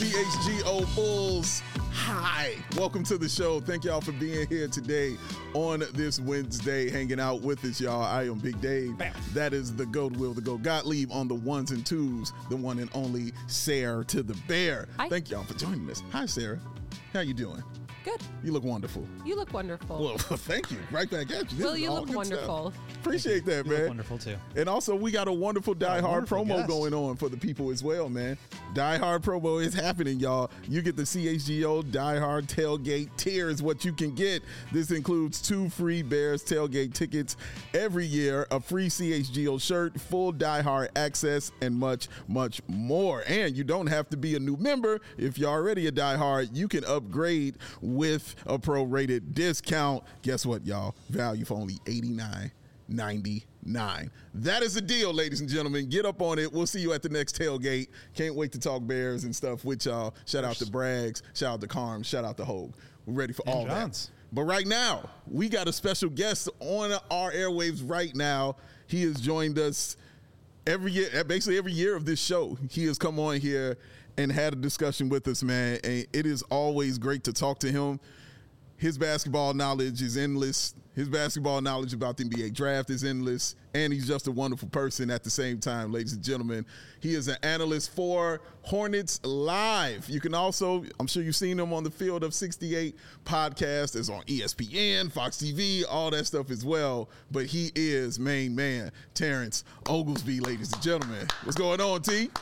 CHGO Bulls. Hi, welcome to the show. Thank y'all for being here today on this Wednesday, hanging out with us, y'all. I am Big Dave. Bam. That is the GOAT Will, the GOAT Gottlieb on the ones and twos, the one and only Sarah to the Bear. Hi. Thank y'all for joining us. Hi, Sarah. How you doing? Good. You look wonderful. You look wonderful. Well, thank you. Right back at you. This Will, is you all look good wonderful. stuff. Appreciate that, You man. look wonderful too. And also, we got a wonderful Die Hard wonderful promo guest. going on for the people as well, man. Die Hard promo is happening, y'all. You get the CHGO Die Hard tailgate tier is what you can get. This includes 2 free Bears tailgate tickets every year, a free CHGO shirt, full Die Hard access, and much, much more. And you don't have to be a new member. If you're already a Die Hard, you can upgrade with a pro-rated discount. Guess what, y'all? Value for only $89.99. That is the deal, ladies and gentlemen. Get up on it. We'll see you at the next tailgate. Can't wait to talk Bears and stuff with y'all. Shout out to Braggs. Shout out to Carm. Shout out to Hogue. We're ready for all Johns. that. But right now, we got a special guest on our airwaves right now. He has joined us every year, basically every year of this show. He has come on here and had a discussion with us, man. And it is always great to talk to him. His basketball knowledge is endless. His basketball knowledge about the NBA draft is endless. And he's just a wonderful person at the same time, ladies and gentlemen. He is an analyst for Hornets Live. You can also, I'm sure you've seen him on the Field of 68 podcast. It's on ESPN, Fox TV, all that stuff as well. But he is main man, Terrence Oglesby, ladies and gentlemen. What's going on, T?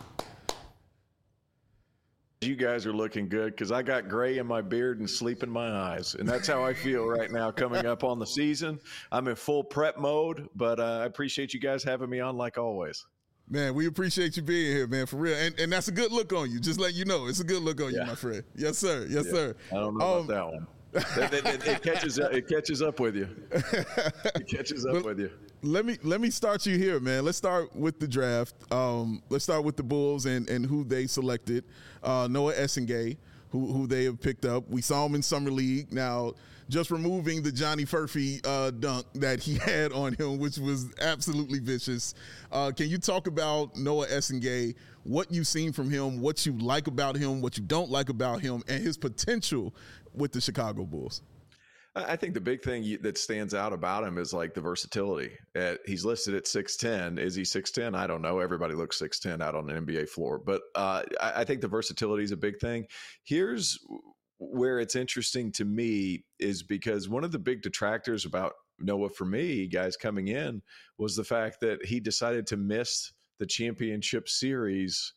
You guys are looking good because I got gray in my beard and sleep in my eyes. And that's how I feel right now coming up on the season. I'm in full prep mode, but I appreciate you guys having me on like always. Man, we appreciate you being here, man, for real. And that's a good look on you. Just let you know, it's a good look on you, my friend. Yes, sir. Yes, sir. I don't know about that one. It catches up with you. It catches up with you. Let me start you here, man. Let's start with the draft. Let's start with the Bulls and who they selected. Noah Essengay, who they have picked up. We saw him in Summer League. Now, just removing the Johnny Furphy dunk that he had on him, which was absolutely vicious. Can you talk about Noah Essengay, what you've seen from him, what you like about him, what you don't like about him, and his potential with the Chicago Bulls? I think the big thing that stands out about him is like the versatility. He's listed at 6'10". Is he 6'10"? I don't know. Everybody looks 6'10" out on an NBA floor. But I think the versatility is a big thing. Here's where it's interesting to me is because one of the big detractors about Noah for me, guys coming in, was the fact that he decided to miss the championship series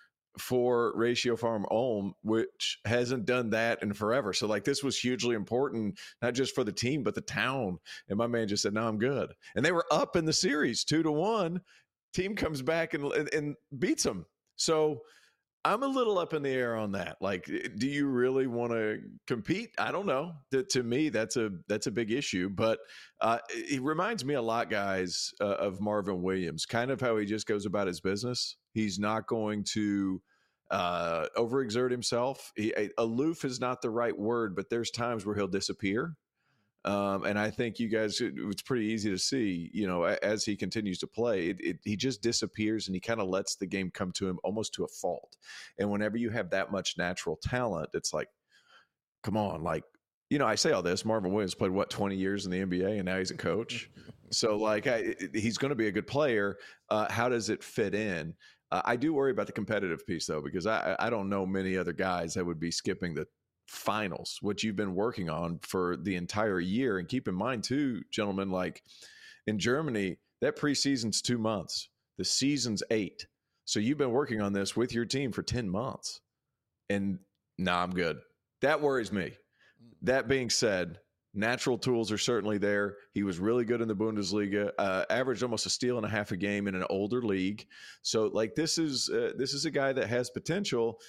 for Ratio Farm Ulm, which hasn't done that in forever. So like this was hugely important, not just for the team, but the town. And my man just said, no, I'm good. And they were up in the series 2-1. Team comes back and beats them. So I'm a little up in the air on that. Like, do you really want to compete? I don't know. To me, that's a big issue. But it reminds me a lot, guys, of Marvin Williams, kind of how he just goes about his business. He's not going to overexert himself. Aloof is not the right word, but there's times where he'll disappear. And I think you guys, it's pretty easy to see, as he continues to play, he just disappears and he kind of lets the game come to him almost to a fault. And whenever you have that much natural talent, it's like, come on, like, I say all this. Marvin Williams played 20 years in the NBA, and now he's a coach. So, like, he's going to be a good player. How does it fit in? I do worry about the competitive piece, though, because I don't know many other guys that would be skipping the finals, which you've been working on for the entire year. And keep in mind, too, gentlemen, like in Germany, that preseason's 2 months. The season's 8. So you've been working on this with your team for 10 months. And I'm good. That worries me. That being said, natural tools are certainly there. He was really good in the Bundesliga, averaged almost a steal and a half a game in an older league. So, like, this is a guy that has potential.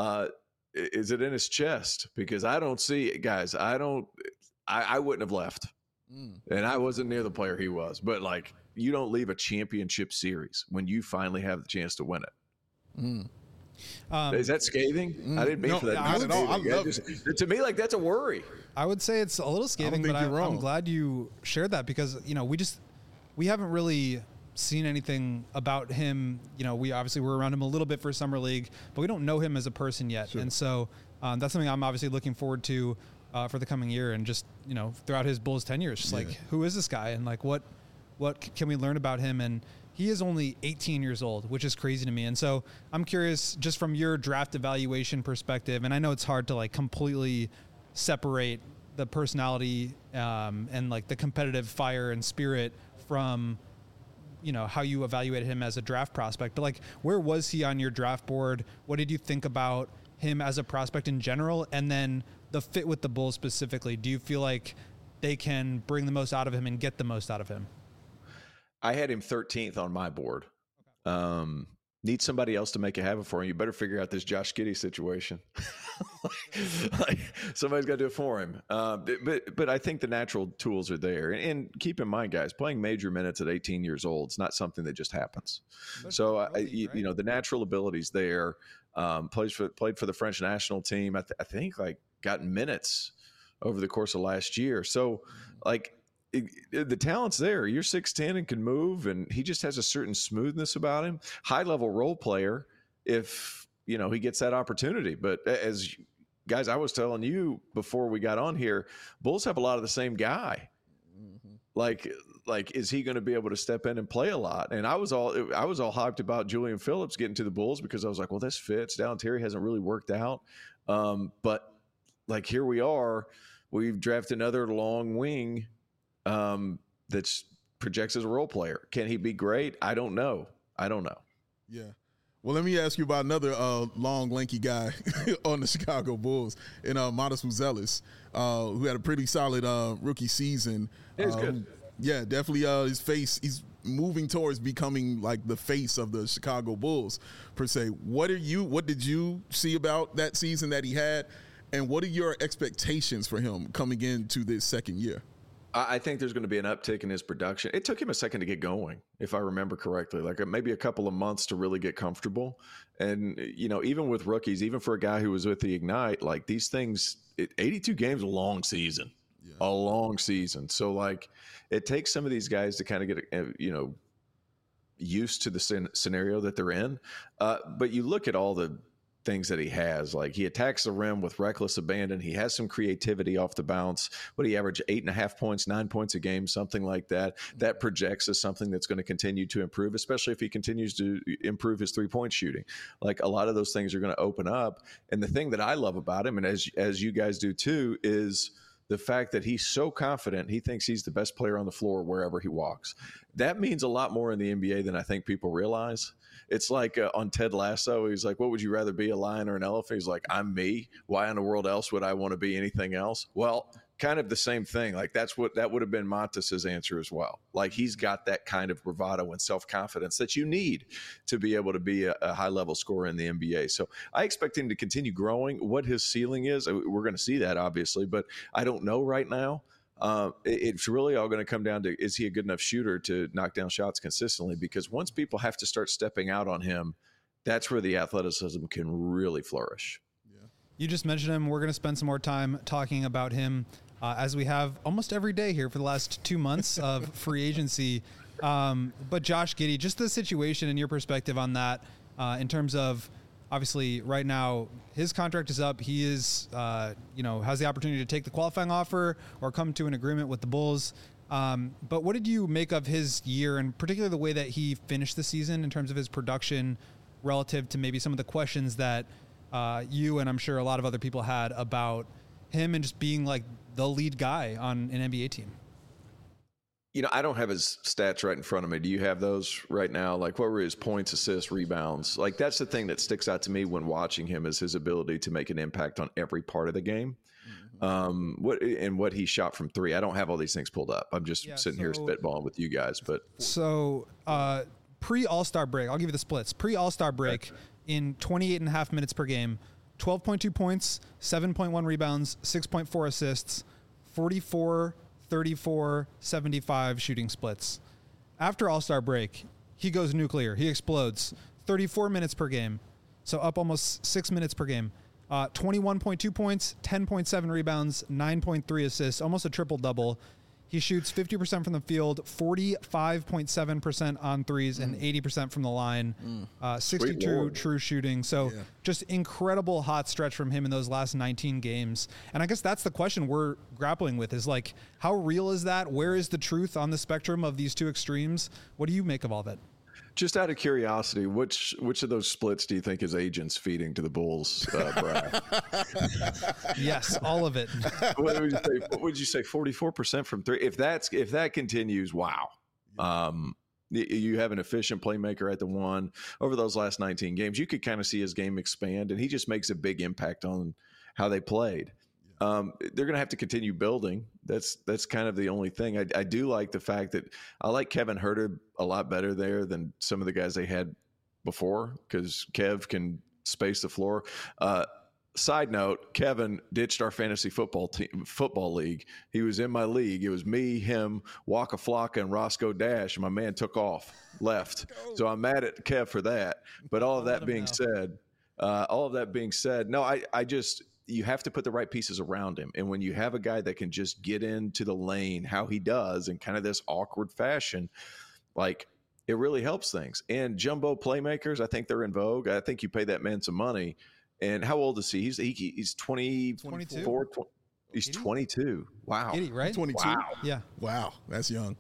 Is it in his chest? Because I don't see it, guys. I wouldn't have left. And I wasn't near the player he was. But, like, you don't leave a championship series when you finally have the chance to win it. Is that scathing? I didn't mean for that. Not at all. I love it. To me, like, that's a worry. I would say it's a little scathing, but I'm glad you shared that because, we haven't really seen anything about him. You know, we obviously were around him a little bit for Summer League, but we don't know him as a person yet. Sure. And so that's something I'm obviously looking forward to for the coming year, and just, you know, throughout his Bulls tenure, it's just like, who is this guy? And like, what can we learn about him? And he is only 18 years old, which is crazy to me. And so I'm curious, just from your draft evaluation perspective, and I know it's hard to like completely separate the personality and like the competitive fire and spirit from, you know, how you evaluated him as a draft prospect, but like, where was he on your draft board? What did you think about him as a prospect in general? And then the fit with the Bulls specifically, do you feel like they can bring the most out of him and get the most out of him? I had him 13th on my board. Need somebody else to make it happen for him. You better figure out this Josh Giddey situation. like somebody's got to do it for him. But I think the natural tools are there. And keep in mind, guys, playing major minutes at 18 years old is not something that just happens. So you know, the natural ability's there. Played for the French national team. I think like gotten minutes over the course of last year. So like, the talent's there. You're 6'10" and can move, and he just has a certain smoothness about him. High level role player, if you know he gets that opportunity. But as guys, I was telling you before we got on here, Bulls have a lot of the same guy. Mm-hmm. Like, is he going to be able to step in and play a lot? And I was all hyped about Julian Phillips getting to the Bulls because I was like, well, this fits. Dallin Terry hasn't really worked out, but like here we are. We've drafted another long wing. That projects as a role player. Can he be great? I don't know. Yeah. Well, let me ask you about another long, lanky guy on the Chicago Bulls, and Matas Buzelis, who had a pretty solid rookie season. He's good. Yeah, definitely. His face, he's moving towards becoming like the face of the Chicago Bulls per se. What did you see about that season that he had, and what are your expectations for him coming into this second year? I think there's going to be an uptick in his production. It took him a second to get going, if I remember correctly, like maybe a couple of months to really get comfortable. And, you know, even with rookies, even for a guy who was with the Ignite, like these things, 82 games, a long season. So like it takes some of these guys to kind of get, you know, used to the scenario that they're in. But you look at all the things that he has, like he attacks the rim with reckless abandon. He has some creativity off the bounce. What he averaged 8.5 points, 9 points a game, something like that. That projects as something that's going to continue to improve, especially if he continues to improve his 3-point shooting. Like a lot of those things are going to open up. And the thing that I love about him, and as you guys do too, is the fact that he's so confident. He thinks he's the best player on the floor wherever he walks. That means a lot more in the NBA than I think people realize. It's like on Ted Lasso, he's like, what would you rather be, a lion or an elephant? He's like, I'm me. Why in the world else would I want to be anything else? Well, kind of the same thing. Like that would have been Matas's answer as well. Like he's got that kind of bravado and self-confidence that you need to be able to be a high-level scorer in the NBA. So I expect him to continue growing. What his ceiling is, we're going to see that obviously, but I don't know right now. It's really all going to come down to, is he a good enough shooter to knock down shots consistently? Because once people have to start stepping out on him, that's where the athleticism can really flourish. Yeah. You just mentioned him. We're going to spend some more time talking about him as we have almost every day here for the last 2 months of free agency. But Josh Giddey, just the situation and your perspective on that in terms of, obviously, right now, his contract is up. He is, has the opportunity to take the qualifying offer or come to an agreement with the Bulls. But what did you make of his year, and particularly the way that he finished the season in terms of his production relative to maybe some of the questions that you and I'm sure a lot of other people had about him and just being like the lead guy on an NBA team? You know, I don't have his stats right in front of me. Do you have those right now? Like, what were his points, assists, rebounds? Like, that's the thing that sticks out to me when watching him, is his ability to make an impact on every part of the game. Mm-hmm. What he shot from three. I don't have all these things pulled up. I'm just sitting here spitballing with you guys. But so pre-All-Star break, I'll give you the splits. Pre-All-Star break, in 28.5 minutes per game, 12.2 points, 7.1 rebounds, 6.4 assists, 44, 34, 75 shooting splits. After All-Star break, he goes nuclear. He explodes. 34 minutes per game, so up almost 6 minutes per game. 21.2 points, 10.7 rebounds, 9.3 assists, almost a triple-double. He shoots 50% from the field, 45.7% on threes, and 80% from the line. 62 true shooting. So just incredible hot stretch from him in those last 19 games. And I guess that's the question we're grappling with is like, how real is that? Where is the truth on the spectrum of these two extremes? What do you make of all that? Just out of curiosity, which of those splits do you think his agent's feeding to the Bulls, Brad? Yes, all of it. What would you say? 44% from three. If that continues, wow. You have an efficient playmaker at the one. Over those last 19 games, you could kind of see his game expand, and he just makes a big impact on how they played. They're going to have to continue building. That's kind of the only thing. I do like the fact that I like Kevin Huerter a lot better there than some of the guys they had before because Kev can space the floor. Side note, Kevin ditched our fantasy football league. He was in my league. It was me, him, Waka Flocka, and Roscoe Dash, and my man took off, left. So I'm mad at Kev for that. But all of that being said, no, I just – you have to put the right pieces around him. And when you have a guy that can just get into the lane, how he does in kind of this awkward fashion, like it really helps things. And jumbo playmakers, I think they're in vogue. I think you pay that man some money. And how old is he? He's 24. He's 22. Wow. 80, right? 22. Wow. Yeah. Wow. That's young.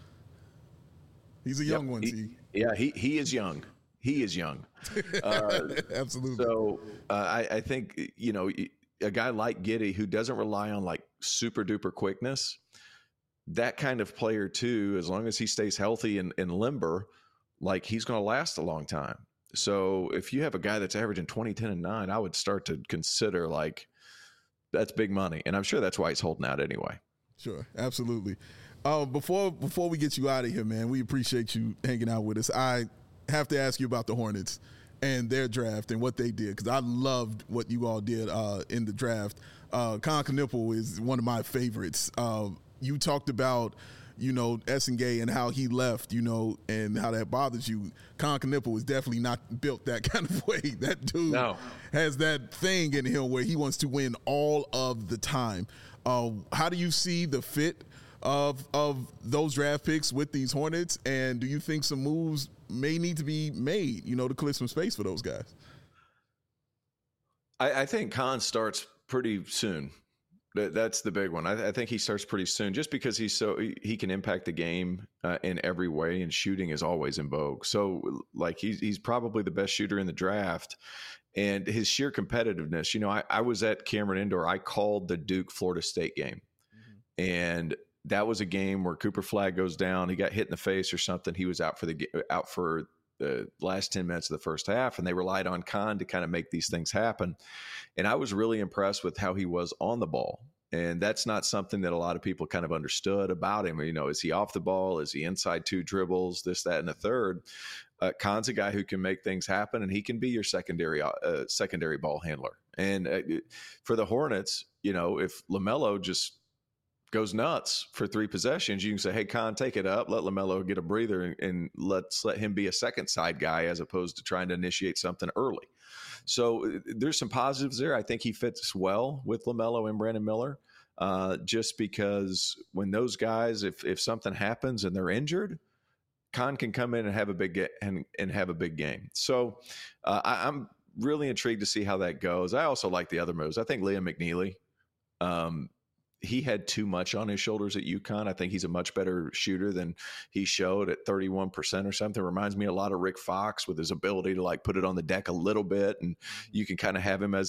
He's a young one. He is young. He is young. Absolutely. So I think, a guy like Giddey who doesn't rely on like super duper quickness, that kind of player too, as long as he stays healthy and limber, like he's going to last a long time. So if you have a guy that's averaging 20, 10, and 9, I would start to consider like that's big money. And I'm sure that's why he's holding out anyway. Sure. Absolutely. Before we get you out of here, man, we appreciate you hanging out with us. I have to ask you about the Hornets and their draft and what they did, because I loved what you all did in the draft. Kon Knueppel is one of my favorites. You talked about, Essengay and how he left, and how that bothers you. Kon Knueppel was definitely not built that kind of way. That dude has that thing in him where he wants to win all of the time. How do you see the fit of those draft picks with these Hornets, and do you think some moves may need to be made, to clear some space for those guys? I think Kon starts pretty soon. That's the big one. I think he starts pretty soon just because he can impact the game in every way, and shooting is always in vogue. So like he's probably the best shooter in the draft, and his sheer competitiveness. I was at Cameron Indoor. I called the Duke Florida State game, and that was a game where Cooper Flagg goes down. He got hit in the face or something. He was out for the last 10 minutes of the first half, and they relied on Kon to kind of make these things happen. And I was really impressed with how he was on the ball. And that's not something that a lot of people kind of understood about him. Is he off the ball? Is he inside 2 dribbles, this, that, and the third? Kon's a guy who can make things happen, and he can be your secondary ball handler. And for the Hornets, if LaMelo just goes nuts for 3 possessions, you can say, hey, Kon, take it up, let LaMelo get a breather, and let's let him be a second side guy as opposed to trying to initiate something early. So there's some positives there. I think he fits well with LaMelo and Brandon Miller, just because when those guys, if something happens and they're injured, Kon can come in and have a big game. So I'm really intrigued to see how that goes. I also like the other moves. I think Liam McNeely, he had too much on his shoulders at UConn. I think he's a much better shooter than he showed at 31% or something. Reminds me a lot of Rick Fox with his ability to like put it on the deck a little bit, and you can kind of have him as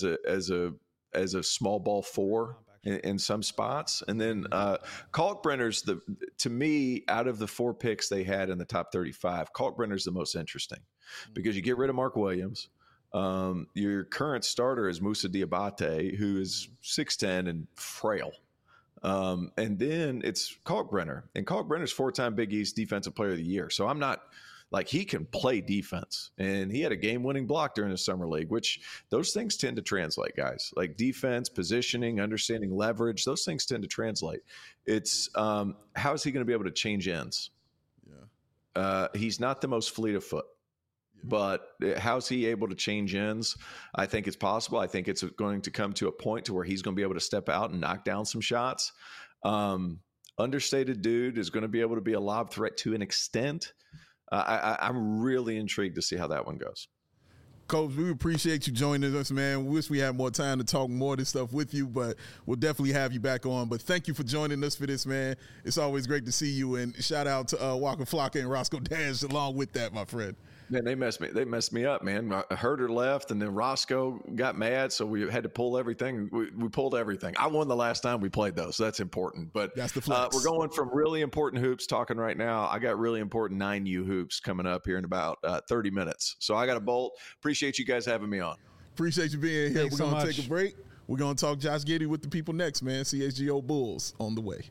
a small ball 4 in some spots. And then Kalkbrenner's to me, out of the 4 picks they had in the top 35, Kalkbrenner's the most interesting because you get rid of Mark Williams. Your current starter is Moussa Diabate, who is 6'10" and frail. And then it's Kalkbrenner, and Kalkbrenner's 4-time Big East Defensive Player of the Year. So I'm not like, he can play defense, and he had a game-winning block during the summer league, which those things tend to translate, guys. Like defense, positioning, understanding leverage, those things tend to translate. It's how is he going to be able to change ends? Yeah, he's not the most fleet of foot. But how's he able to change ends? I think it's possible. I think it's going to come to a point to where he's going to be able to step out and knock down some shots. understated dude is going to be able to be a lob threat to an extent. I'm really intrigued to see how that one goes. Coach, we appreciate you joining us, man. We wish we had more time to talk more of this stuff with you, but we'll definitely have you back on. But thank you for joining us for this, man. It's always great to see you, and shout out to Waka Flocka and Roscoe Dash along with that, my friend. Man, they messed me up, man. Herder left, and then Roscoe got mad, so we had to pull everything. We pulled everything. I won the last time we played, though, so that's important. But that's the flex. We're going from really important hoops talking right now. I got really important 9U hoops coming up here in about 30 minutes. So I got to bolt. Appreciate you guys having me on. Appreciate you being here. Thanks We're going to so take a break. We're going to talk Josh Giddey with the people next, man. CHGO Bulls on the way.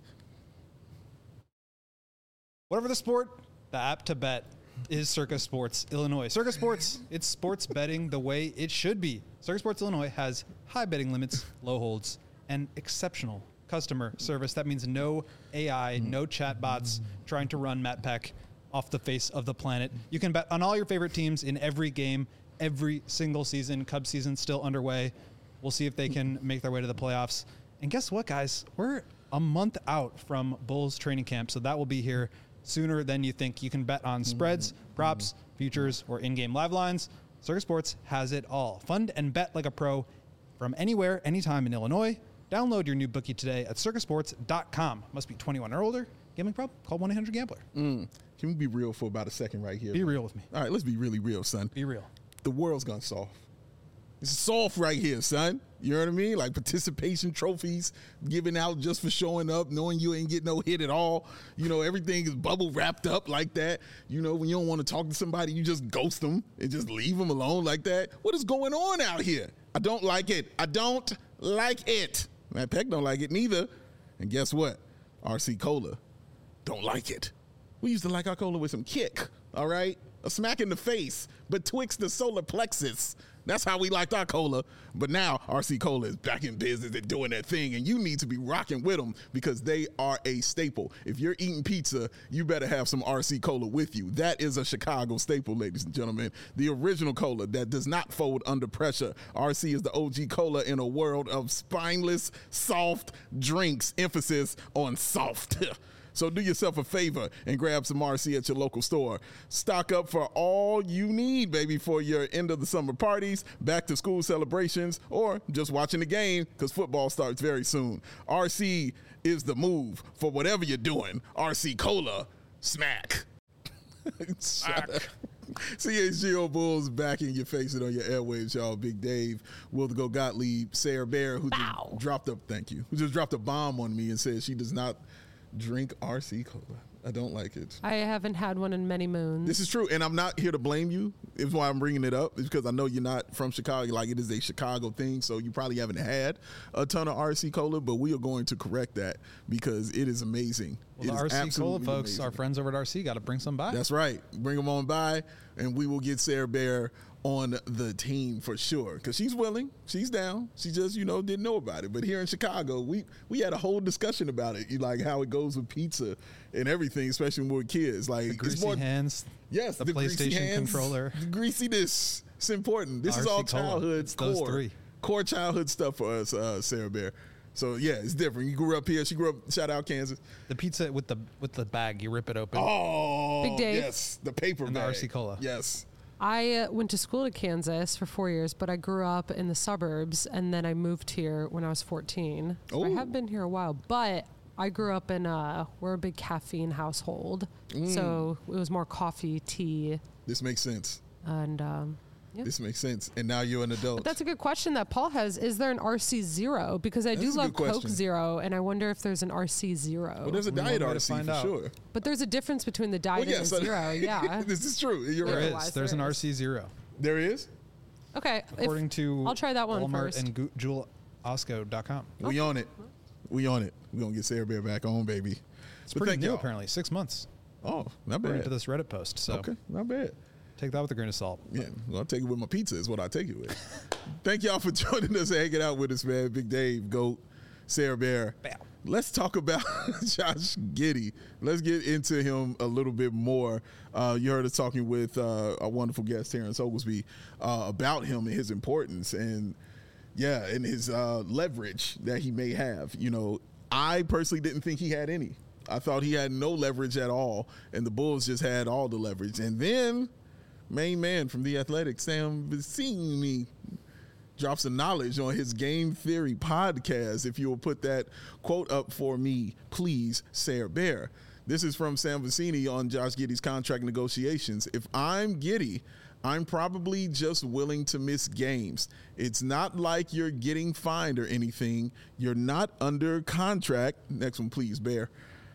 Whatever the sport, the app to bet is Circa Sports Illinois. Circa Sports, it's sports betting the way it should be. Circa Sports Illinois has high betting limits, low holds, and exceptional customer service. That means no AI, no chatbots trying to run Matt Peck off the face of the planet. You can bet on all your favorite teams in every game, every single season. Cubs season still underway. We'll see if they can make their way to the playoffs. And guess what, guys? We're a month out from Bulls training camp, so that will be here sooner than you think. You can bet on spreads, props, futures, or in-game live lines. Circa Sports has it all. Fund and bet like a pro from anywhere, anytime in Illinois. Download your new bookie today at circasports.com. Must be 21 or older. Gambling problem? Call 1-800-GAMBLER. Can we be real for about a second right here? Be real with me. All right, let's be really real, son. Be real. The world's gone soft. It's soft right here, son. You know what I mean? Like participation trophies given out just for showing up, knowing you ain't get no hit at all. You know, everything is bubble wrapped up like that. You know, when you don't want to talk to somebody, you just ghost them and just leave them alone like that. What is going on out here? I don't like it. I don't like it. Matt Peck don't like it neither. And guess what? RC Cola don't like it. We used to like our cola with some kick, all right? A smack in the face, betwixt the solar plexus. That's how we liked our cola. But now RC Cola is back in business and doing that thing, and you need to be rocking with them because they are a staple. If you're eating pizza, you better have some RC Cola with you. That is a Chicago staple, ladies and gentlemen. The original cola that does not fold under pressure. RC is the OG cola in a world of spineless, soft drinks. Emphasis on soft. So do yourself a favor and grab some RC at your local store. Stock up for all you need, baby, for your end of the summer parties, back to school celebrations, or just watching the game because football starts very soon. RC is the move for whatever you're doing. RC Cola, smack. CHGO Bulls back in your face and on your airwaves, y'all. Big Dave, Will the Go Gottlieb, Sarah Bear, who just dropped a bomb on me and said she does not drink RC Cola. I don't like it. I haven't had one in many moons. This is true, and I'm not here to blame you. It's why I'm bringing it up. It's because I know you're not from Chicago. Like, it is a Chicago thing, so you probably haven't had a ton of RC Cola, but we are going to correct that because it is amazing. Well, the RC Cola folks, amazing. Our friends over at RC, got to bring some by. That's right. Bring them on by, and we will get Sarah Bear on the team for sure because she's willing, she's down. She just, didn't know about it. But here in Chicago, we had a whole discussion about it, like how it goes with pizza and everything, especially when we're kids. Like the greasy hands. Yes, the PlayStation hands, controller, the greasiness. It's important. This RC is all Cola. childhood core childhood stuff for us, Sarah Bear. So yeah, it's different. You grew up here. She grew up. Shout out Kansas. The pizza with the bag, you rip it open. Oh, Big Dave. Yes, the paper and bag. the RC Cola. Yes. I went to school to Kansas for 4 years, but I grew up in the suburbs, and then I moved here when I was 14. So I have been here a while, but I grew up in we're a big caffeine household, so it was more coffee, tea. This makes sense. And this makes sense. And now you're an adult. But that's a good question that Paul has. Is there an RC Zero? Because I do love Coke Zero, and I wonder if there's an RC Zero. Well, there's a Diet RC for sure. But there's a difference between the Diet and the Zero. Yeah, this is true. You're there right. is. There's an RC Zero. There is. Okay. According to I'll try that one Walmart first. and JewelOsco.com. We on it. We on it. We're gonna get Sarah Bear back on, baby. It's pretty new, apparently. 6 months. Oh, not bad. According to this Reddit post. So okay, not bad. Take that with a grain of salt. Yeah, well, I'll take it with my pizza is what I take it with. Thank y'all for joining us and hanging out with us, man. Big Dave, Goat, Sarah Bear. Bam. Let's talk about Josh Giddey. Let's get into him a little bit more. You heard us talking with our wonderful guest, Terrence Oglesby, about him and his importance and his leverage that he may have. I personally didn't think he had any. I thought he had no leverage at all, and the Bulls just had all the leverage. And then main man from The Athletic, Sam Vecenie, drops some knowledge on his Game Theory podcast. If you will put that quote up for me, please, Sarah Bear. This is from Sam Vecenie on Josh Giddey's contract negotiations. If I'm Giddey, I'm probably just willing to miss games. It's not like you're getting fined or anything. You're not under contract. Next one, please, Bear.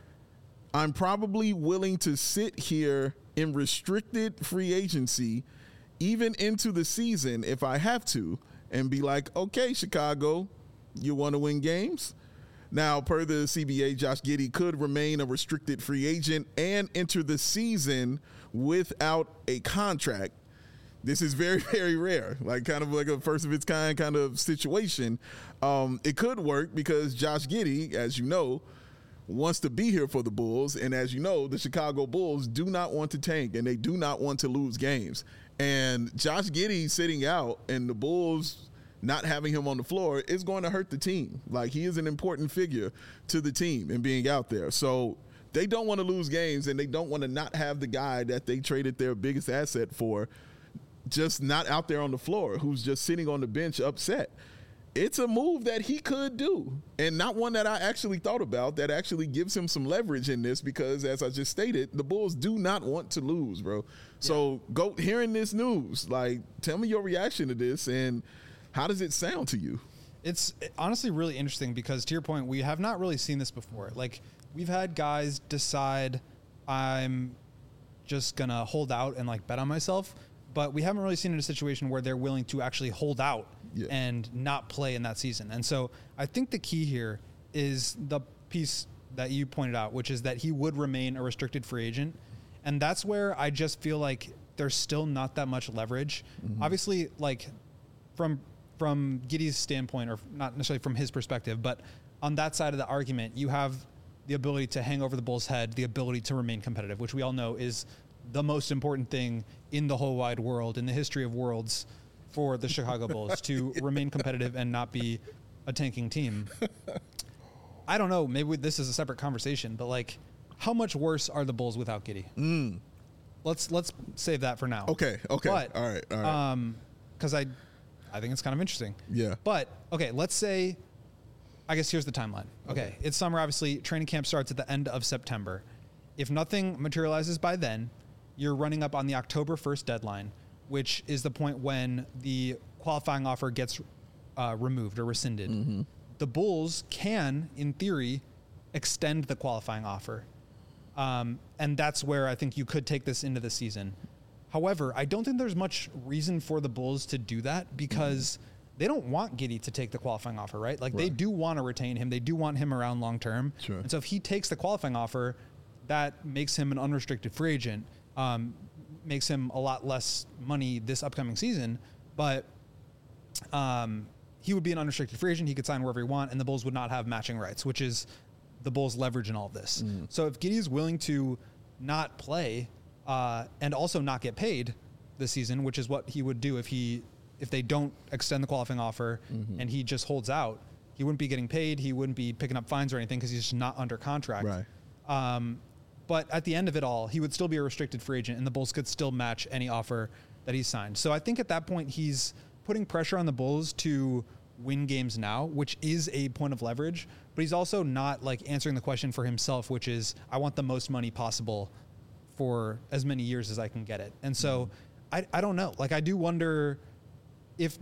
I'm probably willing to sit here in restricted free agency, even into the season if I have to, and be like, okay, Chicago, you want to win games? Now, per the CBA, Josh Giddey could remain a restricted free agent and enter the season without a contract. This is very, very rare, like kind of like a first of its kind kind of situation. It could work because Josh Giddey, as you know, wants to be here for the Bulls. And as you know, the Chicago Bulls do not want to tank and they do not want to lose games. And Josh Giddey sitting out and the Bulls not having him on the floor is going to hurt the team. Like, he is an important figure to the team and being out there. So they don't want to lose games and they don't want to not have the guy that they traded their biggest asset for just not out there on the floor, who's just sitting on the bench upset. It's a move that he could do, and not one that I actually thought about that actually gives him some leverage in this because, as I just stated, the Bulls do not want to lose, bro. So go hearing this news, like, tell me your reaction to this and how does it sound to you? It's honestly really interesting because, to your point, we have not really seen this before. Like, we've had guys decide I'm just going to hold out and, like, bet on myself, but we haven't really seen it in a situation where they're willing to actually hold out and not play in that season. And so I think the key here is the piece that you pointed out, which is that he would remain a restricted free agent. And that's where I just feel like there's still not that much leverage. Mm-hmm. Obviously, like, from Giddey's standpoint, or not necessarily from his perspective, but on that side of the argument, you have the ability to hang over the Bulls' head, the ability to remain competitive, which we all know is the most important thing in the whole wide world, in the history of worlds, for the Chicago Bulls to remain competitive and not be a tanking team. I don't know. Maybe this is a separate conversation, but, like, how much worse are the Bulls without Giddey? Let's save that for now. Okay. But, all right. Because I think it's kind of interesting. Yeah. But, okay, let's say, I guess here's the timeline. Okay. It's summer, obviously. Training camp starts at the end of September. If nothing materializes by then, you're running up on the October 1st deadline, which is the point when the qualifying offer gets removed or rescinded. Mm-hmm. The Bulls can, in theory, extend the qualifying offer. And that's where I think you could take this into the season. However, I don't think there's much reason for the Bulls to do that because they don't want Giddey to take the qualifying offer, right? Like, they do want to retain him. They do want him around long term. Sure. And so if he takes the qualifying offer, that makes him an unrestricted free agent, makes him a lot less money this upcoming season. But he would be an unrestricted free agent. He could sign wherever he want, and the Bulls would not have matching rights, which is the Bulls' leverage in all of this. So if Giddey is willing to not play and also not get paid this season, which is what he would do if they don't extend the qualifying offer and he just holds out, he wouldn't be getting paid. He wouldn't be picking up fines or anything because he's just not under contract. Right. But at the end of it all, he would still be a restricted free agent, and the Bulls could still match any offer that he signed. So I think at that point, he's putting pressure on the Bulls to win games now, which is a point of leverage, but he's also not, like, answering the question for himself, which is, I want the most money possible for as many years as I can get it. And so I don't know. Like, I do wonder if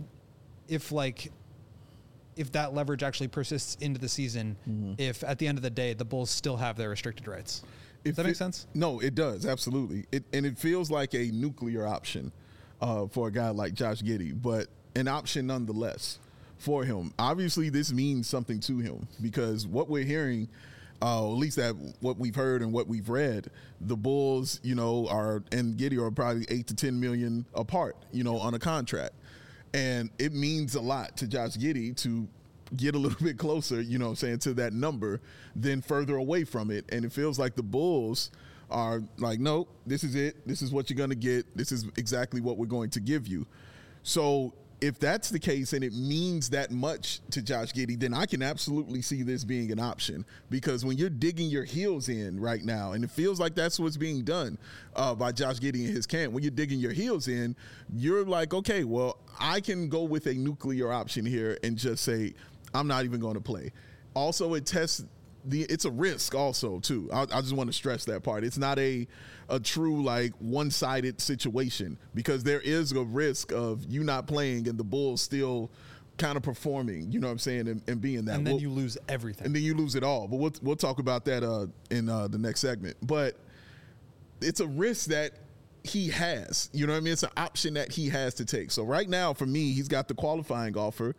that leverage actually persists into the season, if at the end of the day, the Bulls still have their restricted rights. Does that make sense? No, it does. Absolutely. And it feels like a nuclear option for a guy like Josh Giddey, but an option nonetheless for him. Obviously, this means something to him because what we're hearing, at least that what we've heard and what we've read, the Bulls, and Giddey are probably $8 to $10 million apart, on a contract. And it means a lot to Josh Giddey to get a little bit closer, to that number than further away from it. And it feels like the Bulls are like, nope, this is it. This is what you're going to get. This is exactly what we're going to give you. So if that's the case and it means that much to Josh Giddey, then I can absolutely see this being an option, because when you're digging your heels in right now, and it feels like that's what's being done by Josh Giddey and his camp, when you're digging your heels in, you're like, okay, well, I can go with a nuclear option here and just say, I'm not even going to play. Also, it's a risk also too. I just want to stress that part. It's not a true like one-sided situation, because there is a risk of you not playing and the Bulls still kind of performing, you know what I'm saying, and being that. And then you lose everything. And then you lose it all. But we'll talk about that in the next segment. But it's a risk that he has, you know what I mean? It's an option that he has to take. So right now, for me, he's got the qualifying offer,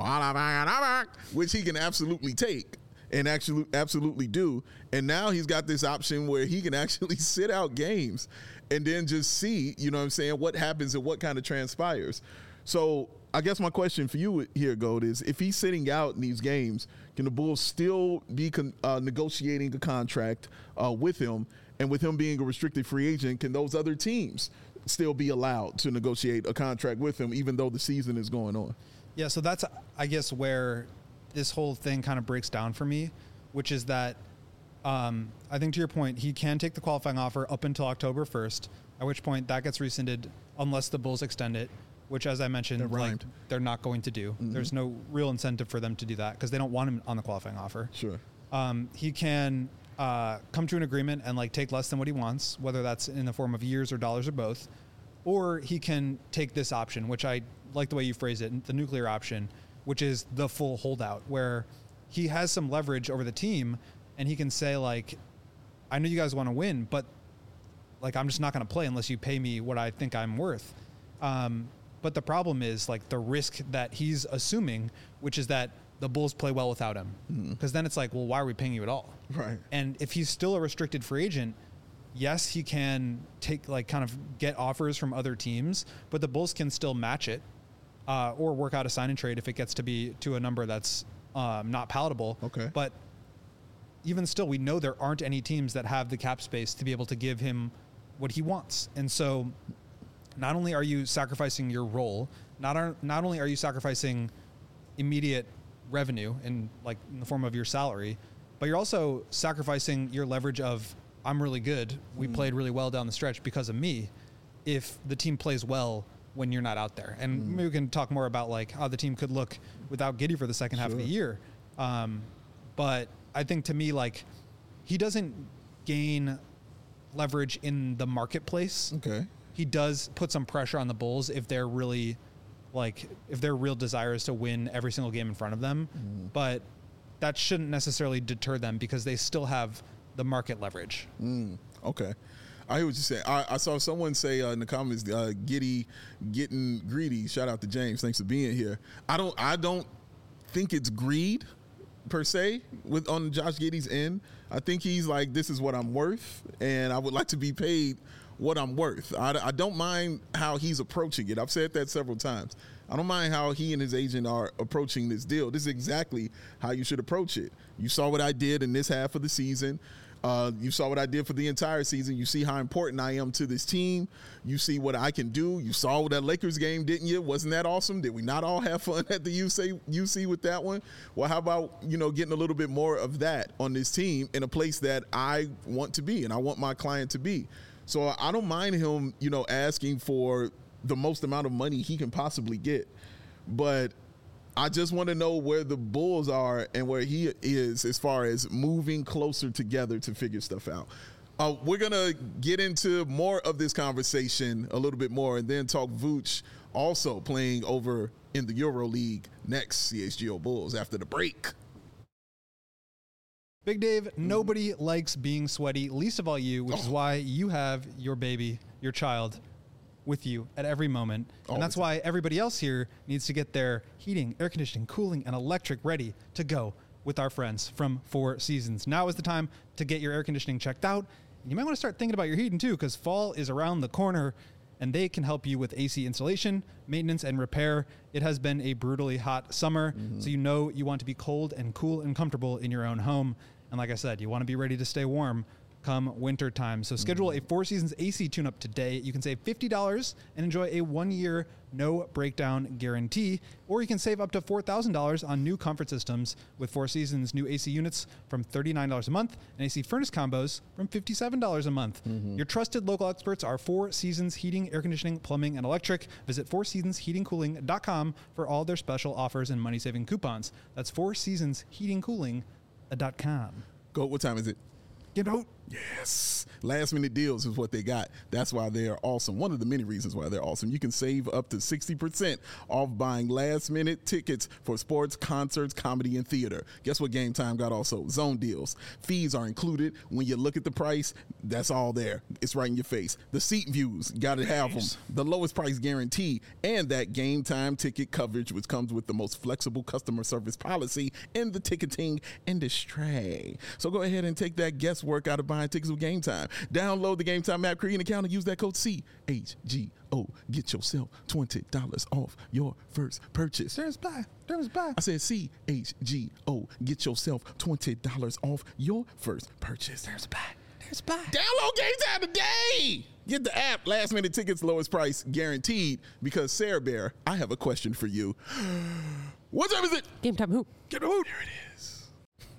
which he can absolutely take and absolutely do. And now he's got this option where he can actually sit out games and then just see, you know what I'm saying, what happens and what kind of transpires. So I guess my question for you here, Gold, is if he's sitting out in these games, can the Bulls still be negotiating a contract with him? And with him being a restricted free agent, can those other teams still be allowed to negotiate a contract with him even though the season is going on? Yeah, so that's, I guess, where this whole thing kind of breaks down for me, which is that I think, to your point, he can take the qualifying offer up until October 1st, at which point that gets rescinded unless the Bulls extend it, which, as I mentioned, they're not going to do. Mm-hmm. There's no real incentive for them to do that because they don't want him on the qualifying offer. Sure. He can come to an agreement and like take less than what he wants, whether that's in the form of years or dollars or both, or he can take this option, which I like the way you phrase it, the nuclear option, which is the full holdout, where he has some leverage over the team and he can say, like, I know you guys want to win, but like, I'm just not going to play unless you pay me what I think I'm worth. But the problem is like the risk that he's assuming, which is that the Bulls play well without him. Because then it's like, well, why are we paying you at all? Right. And if he's still a restricted free agent, yes, he can take like kind of get offers from other teams, but the Bulls can still match it or work out a sign and trade if it gets to be to a number that's not palatable. Okay. But even still, we know there aren't any teams that have the cap space to be able to give him what he wants. And so not only are you sacrificing your role, not only are you sacrificing immediate revenue in the form of your salary, but you're also sacrificing your leverage of, I'm really good. We played really well down the stretch because of me. If the team plays well when you're not out there, and maybe we can talk more about like how the team could look without Giddey for the second half of the year. But I think to me, like, he doesn't gain leverage in the marketplace. Okay. He does put some pressure on the Bulls if they're really if their real desire is to win every single game in front of them, but that shouldn't necessarily deter them because they still have the market leverage. Okay. I hear what you're saying. I saw someone say in the comments, Giddey getting greedy. Shout out to James. Thanks for being here. I don't think it's greed per se on Josh Giddey's end. I think he's like, this is what I'm worth, and I would like to be paid what I'm worth. I don't mind how he's approaching it. I've said that several times. I don't mind how he and his agent are approaching this deal. This is exactly how you should approach it. You saw what I did in this half of the season. You saw what I did for the entire season. You see how important I am to this team. You see what I can do. You saw that Lakers game, didn't you? Wasn't that awesome? Did we not all have fun at the UC with that one? Well, how about, getting a little bit more of that on this team in a place that I want to be and I want my client to be. So I don't mind him, asking for the most amount of money he can possibly get. But I just want to know where the Bulls are and where he is as far as moving closer together to figure stuff out. We're going to get into more of this conversation a little bit more and then talk Vooch also playing over in the EuroLeague next, CHGO Bulls, after the break. Big Dave, nobody likes being sweaty, least of all you, which is why you have your baby, your child, with you at every moment. And that's why everybody else here needs to get their heating, air conditioning, cooling, and electric ready to go with our friends from Four Seasons. Now is the time to get your air conditioning checked out. And you might want to start thinking about your heating too, because fall is around the corner and they can help you with AC installation, maintenance, and repair. It has been a brutally hot summer, so you want to be cold and cool and comfortable in your own home. And like I said, you want to be ready to stay warm come winter time. So schedule a Four Seasons AC tune-up today. You can save $50 and enjoy a 1-year no breakdown guarantee, or you can save up to $4,000 on new comfort systems with Four Seasons new AC units from $39 a month and AC furnace combos from $57 a month. Your trusted local experts are Four Seasons Heating, Air Conditioning, Plumbing, and Electric. Visit fourseasonsheatingcooling.com for all their special offers and money-saving coupons. That's fourseasonsheatingcooling.com. Go. What time is it? Get out. Yes. Last minute deals is what they got. That's why they are awesome. One of the many reasons why they're awesome. You can save up to 60% off buying last minute tickets for sports, concerts, comedy, and theater. Guess what Game Time got also? Zone deals. Fees are included. When you look at the price, that's all there. It's right in your face. The seat views, got to have them. The lowest price guarantee, and that Game Time ticket coverage, which comes with the most flexible customer service policy in the ticketing industry. So go ahead and take that guesswork out of buying tickets with Game Time. Download the Game Time app, create an account, and use that code CHGO. Get yourself $20 off your first purchase. There's buy. I said CHGO. Get yourself $20 off your first purchase. There's buy. Download Game Time today. Get the app. Last minute tickets, lowest price guaranteed. Because Sarah Bear, I have a question for you. What time is it? Game Time who? Get the hoot. There it is.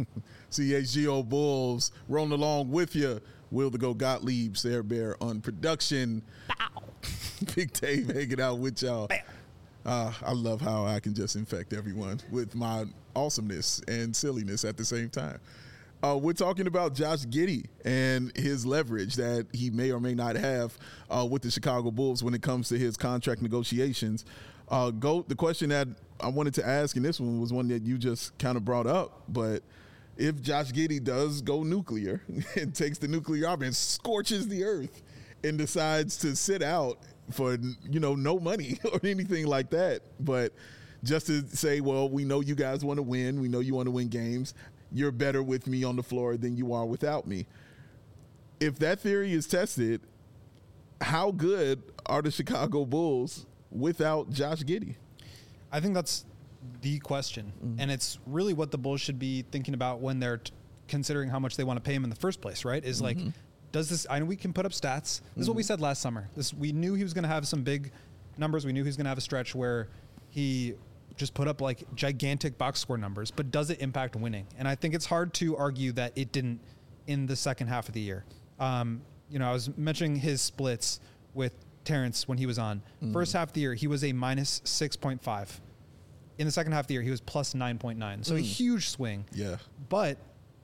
CHGO Bulls rolling along with you. Will the Go Gottlieb, Sarah Bear on production. Bow. Big Dave hanging out with y'all. I love how I can just infect everyone with my awesomeness and silliness at the same time. We're talking about Josh Giddey and his leverage that he may or may not have with the Chicago Bulls when it comes to his contract negotiations. Goat, the question that I wanted to ask, and this one was one that you just kind of brought up, but if Josh Giddey does go nuclear and takes the nuclear job and scorches the earth and decides to sit out for, no money or anything like that, but just to say, well, we know you guys want to win. We know you want to win games. You're better with me on the floor than you are without me. If that theory is tested, how good are the Chicago Bulls without Josh Giddey? I think that's the question. And it's really what the Bulls should be thinking about when they're considering how much they want to pay him in the first place, right? Is like, does this, I know we can put up stats. This is what we said last summer. We knew he was going to have some big numbers. We knew he was going to have a stretch where he just put up like gigantic box score numbers, but does it impact winning? And I think it's hard to argue that it didn't in the second half of the year. I was mentioning his splits with Terrence when he was on. First half of the year, he was a minus 6.5. In the second half of the year, he was plus 9.9. So a huge swing. Yeah. But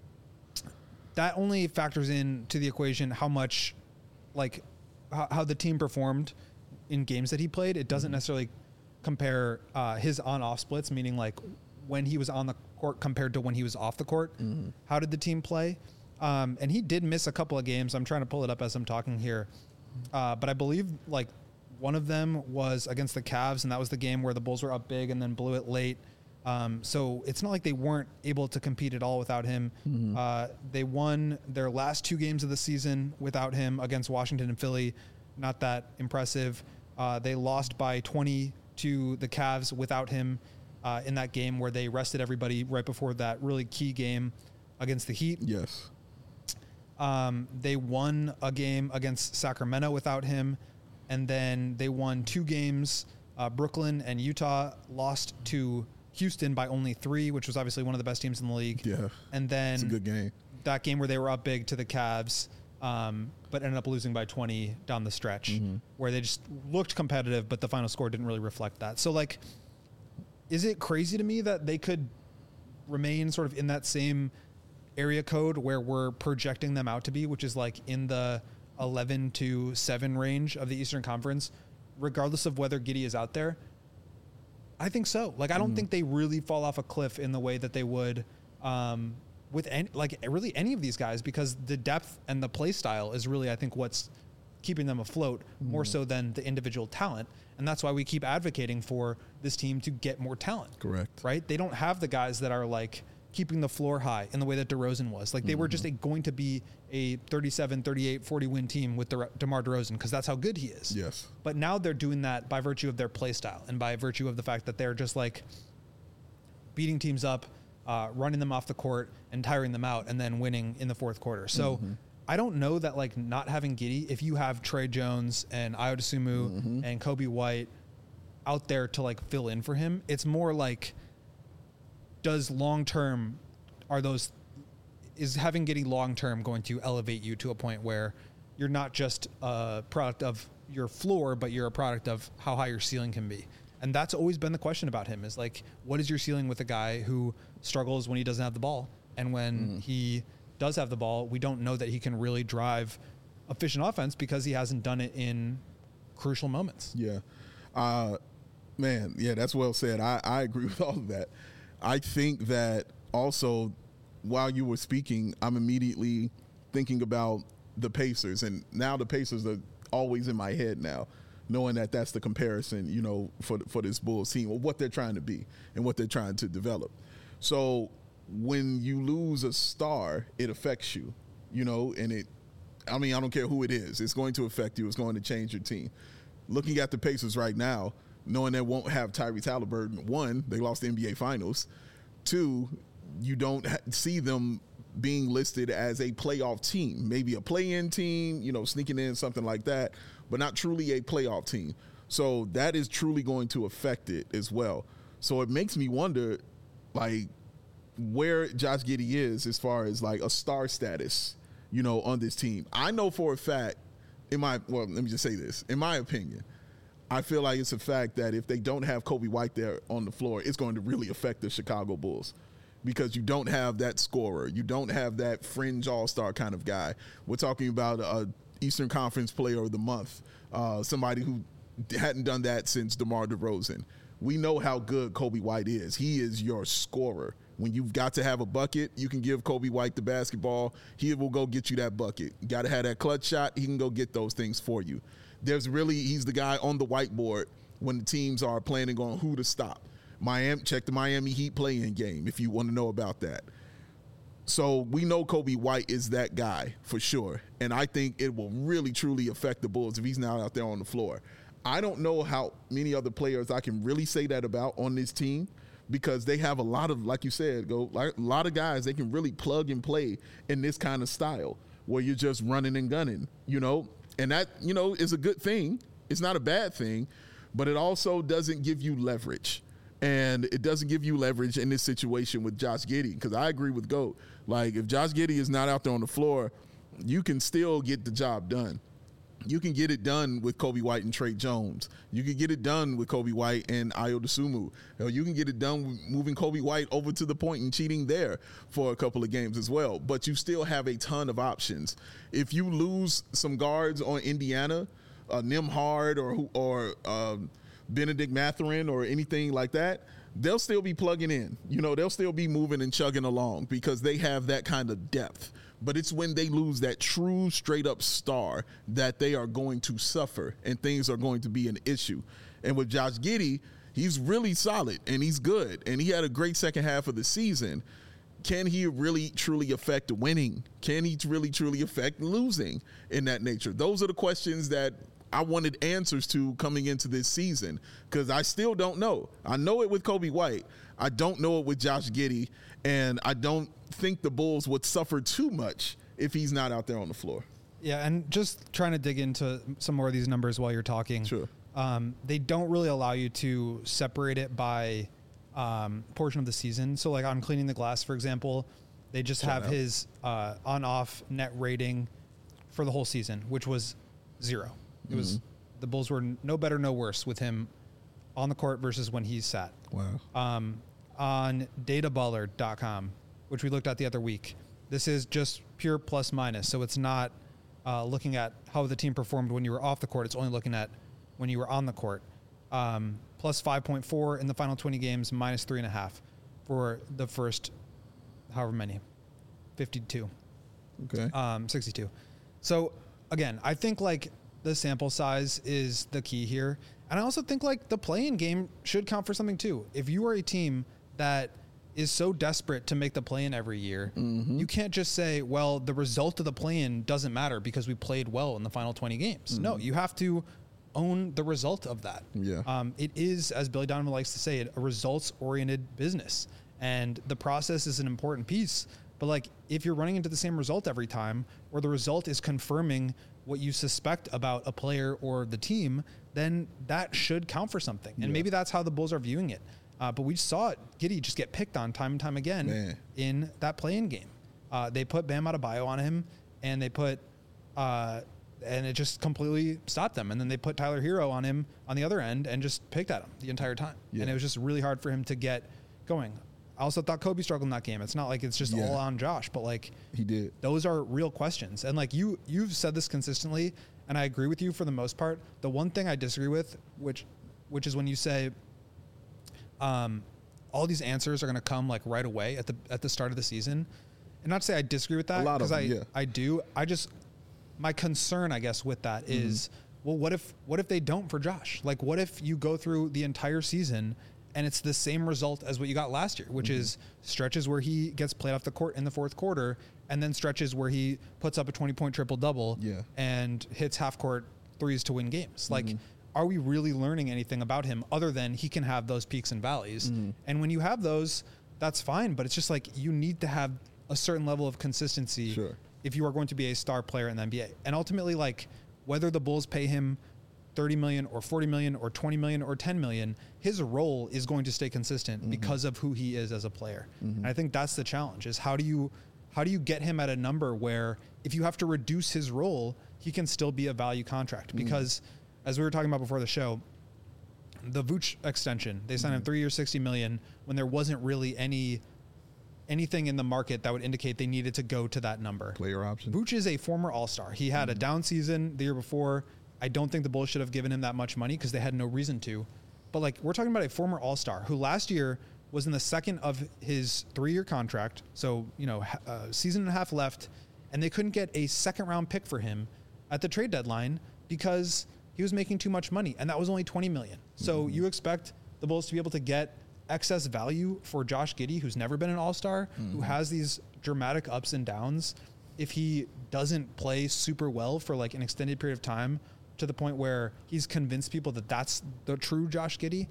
that only factors in to the equation how much, like, how the team performed in games that he played. It doesn't necessarily compare his on-off splits, meaning like when he was on the court compared to when he was off the court. How did the team play? And he did miss a couple of games. I'm trying to pull it up as I'm talking here. But I believe like one of them was against the Cavs, and that was the game where the Bulls were up big and then blew it late. So it's not like they weren't able to compete at all without him. They won their last 2 games of the season without him against Washington and Philly. Not that impressive. They lost by 20 to the Cavs without him in that game where they rested everybody right before that really key game against the Heat. Yes. They won a game against Sacramento without him. And then they won 2 games. Brooklyn and Utah lost to Houston by only 3, which was obviously one of the best teams in the league. Yeah. And then it's a good game. That game where they were up big to the Cavs, but ended up losing by 20 down the stretch, where they just looked competitive, but the final score didn't really reflect that. So, like, is it crazy to me that they could remain sort of in that same area code where we're projecting them out to be, which is like in the 11-7 range of the Eastern Conference, regardless of whether Giddey is out there? I think so. Like, I don't think they really fall off a cliff in the way that they would with any of these guys, because the depth and the play style is really, I think, what's keeping them afloat more so than the individual talent. And that's why we keep advocating for this team to get more talent. Correct. Right? They don't have the guys that are like keeping the floor high in the way that DeRozan was. Like, they were just going to be a 37, 38, 40 win team with DeMar DeRozan, because that's how good he is. Yes. But now they're doing that by virtue of their play style and by virtue of the fact that they're just like beating teams up, running them off the court and tiring them out and then winning in the fourth quarter. So I don't know that like not having Giddey, if you have Trey Jones and Ayo Dosunmu and Kobe White out there to like fill in for him, it's more like, does long-term, is having Giddey long-term going to elevate you to a point where you're not just a product of your floor, but you're a product of how high your ceiling can be? And that's always been the question about him, is like, what is your ceiling with a guy who struggles when he doesn't have the ball? And when he does have the ball, we don't know that he can really drive efficient offense because he hasn't done it in crucial moments. Yeah. Man, yeah, that's well said. I agree with all of that. I think that also, while you were speaking, I'm immediately thinking about the Pacers. And now the Pacers are always in my head now, knowing that that's the comparison, you know, for this Bulls team, or what they're trying to be and what they're trying to develop. So when you lose a star, it affects you, you know, and I don't care who it is. It's going to affect you. It's going to change your team. Looking at the Pacers right now, knowing they won't have Tyrese Halliburton, one, they lost the NBA Finals. Two, you don't see them being listed as a playoff team, maybe a play-in team, you know, sneaking in, something like that, but not truly a playoff team. So that is truly going to affect it as well. So it makes me wonder, like, where Josh Giddey is as far as like a star status, you know, on this team. I know for a fact, let me just say this. In my opinion, I feel like it's a fact that if they don't have Kobe White there on the floor, it's going to really affect the Chicago Bulls, because you don't have that scorer. You don't have that fringe all-star kind of guy. We're talking about a Eastern Conference Player of the Month, somebody who hadn't done that since DeMar DeRozan. We know how good Kobe White is. He is your scorer. When you've got to have a bucket, you can give Kobe White the basketball. He will go get you that bucket. You got to have that clutch shot. He can go get those things for you. He's the guy on the whiteboard when the teams are planning on who to stop. Check the Miami Heat play-in game if you want to know about that. So we know Kobe White is that guy for sure. And I think it will really, truly affect the Bulls if he's not out there on the floor. I don't know how many other players I can really say that about on this team, because they have a lot of, like you said, a lot of guys they can really plug and play in this kind of style where you're just running and gunning, you know. And that, you know, is a good thing. It's not a bad thing, but it also doesn't give you leverage. And it doesn't give you leverage in this situation with Josh Giddey, because I agree with GOAT. Like, if Josh Giddey is not out there on the floor, you can still get the job done. You can get it done with Kobe White and Trey Jones. You can get it done with Kobe White and Ayo Dosunmu. You can get it done with moving Kobe White over to the point and cheating there for a couple of games as well. But you still have a ton of options. If you lose some guards on Indiana, Nembhard or Benedict Mathurin or anything like that, they'll still be plugging in. You know, they'll still be moving and chugging along because they have that kind of depth. But it's when they lose that true straight-up star that they are going to suffer and things are going to be an issue. And with Josh Giddey, he's really solid and he's good. And he had a great second half of the season. Can he really, truly affect winning? Can he really, truly affect losing in that nature? Those are the questions that I wanted answers to coming into this season, because I still don't know. I know it with Kobe White. I don't know it with Josh Giddey, and I don't think the Bulls would suffer too much if he's not out there on the floor. Yeah, and just trying to dig into some more of these numbers while you're talking. Sure. They don't really allow you to separate it by portion of the season. So, like on Cleaning the Glass, for example, they just have his on-off net rating for the whole season, which was 0. It was the Bulls were no better, no worse with him on the court versus when he sat. Wow. On databaller.com, which we looked at the other week, this is just pure plus minus. So it's not looking at how the team performed when you were off the court. It's only looking at when you were on the court. Plus 5.4 in the final 20 games, minus 3.5 for the first however many, 52. Okay. 62. So again, I think like the sample size is the key here. And I also think like the play-in game should count for something too. If you are a team that is so desperate to make the play-in every year, you can't just say, well, the result of the play-in doesn't matter because we played well in the final 20 games. No, you have to own the result of that. Yeah. It is, as Billy Donovan likes to say, a results-oriented business. And the process is an important piece. But But like, if you're running into the same result every time, or the result is confirming what you suspect about a player or the team, then that should count for something. And maybe that's how the Bulls are viewing it. But we saw it, Giddey just get picked on time and time again in that play-in game. They put Bam Adebayo on him, and they put, and it just completely stopped them. And then they put Tyler Hero on him on the other end and just picked at him the entire time. Yeah. And it was just really hard for him to get going. I also thought Kobe struggled in that game. It's not like it's just all on Josh, but like he did. Those are real questions. And like you've said this consistently, and I agree with you for the most part. The one thing I disagree with, which is when you say, all these answers are going to come like right away at the start of the season. And not to say I disagree with that, because I do. My concern, I guess, with that is, well, what if they don't for Josh? Like, what if you go through the entire season and it's the same result as what you got last year, which is stretches where he gets played off the court in the fourth quarter, and then stretches where he puts up a 20-point triple-double and hits half-court threes to win games. Like, are we really learning anything about him other than he can have those peaks and valleys? And when you have those, that's fine, but it's just like you need to have a certain level of consistency if you are going to be a star player in the NBA. And ultimately, like, whether the Bulls pay him $30 million or $40 million or $20 million or $10 million, his role is going to stay consistent because of who he is as a player. And I think that's the challenge, is how do you get him at a number where if you have to reduce his role, he can still be a value contract? Because as we were talking about before the show, the Vooch extension, they signed him 3 years, $60 million when there wasn't really anything in the market that would indicate they needed to go to that number. Player option. Vooch is a former All-Star. He had a down season the year before. I don't think the Bulls should have given him that much money because they had no reason to. But like, we're talking about a former All-Star who last year was in the second of his 3-year contract. So, season and a half left, and they couldn't get a second-round pick for him at the trade deadline because he was making too much money, and that was only $20 million. So you expect the Bulls to be able to get excess value for Josh Giddey, who's never been an All-Star, who has these dramatic ups and downs. If he doesn't play super well for like an extended period of time, to the point where he's convinced people that that's the true Josh Giddey.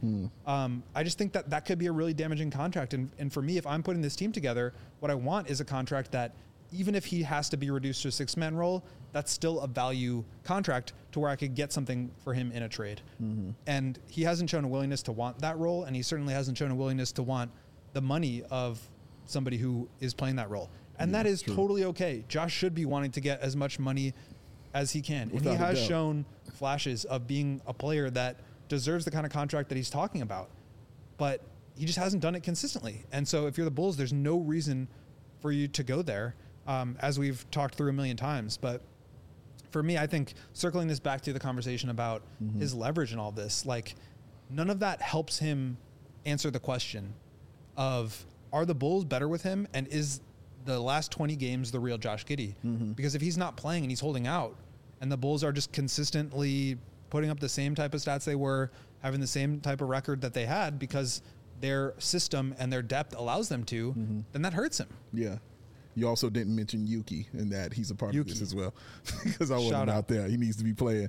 I just think that could be a really damaging contract. And for me, if I'm putting this team together, what I want is a contract that even if he has to be reduced to a 6-man role, that's still a value contract to where I could get something for him in a trade. And he hasn't shown a willingness to want that role. And he certainly hasn't shown a willingness to want the money of somebody who is playing that role. And that is totally okay. Josh should be wanting to get as much money as he can. And he has shown flashes of being a player that deserves the kind of contract that he's talking about, but he just hasn't done it consistently. And so if you're the Bulls, there's no reason for you to go there, as we've talked through a million times. But for me, I think circling this back to the conversation about his leverage and all this, like, none of that helps him answer the question of, are the Bulls better with him? And is the last 20 games the real Josh Giddey? Because if he's not playing and he's holding out, and the Bulls are just consistently putting up the same type of stats they were, having the same type of record that they had because their system and their depth allows them to, then that hurts him. Yeah. You also didn't mention Yuki and that he's a part of this as well, because I wasn't out there. He needs to be playing.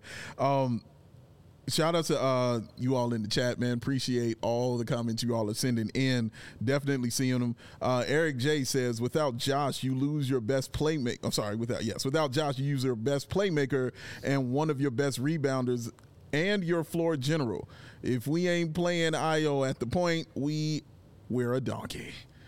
Shout out to you all in the chat, man. Appreciate all the comments you all are sending in. Definitely seeing them. Eric J says, without Josh, you lose your best playmaker. I'm sorry, without Josh, you use your best playmaker and one of your best rebounders and your floor general. If we ain't playing Io at the point, we're a donkey.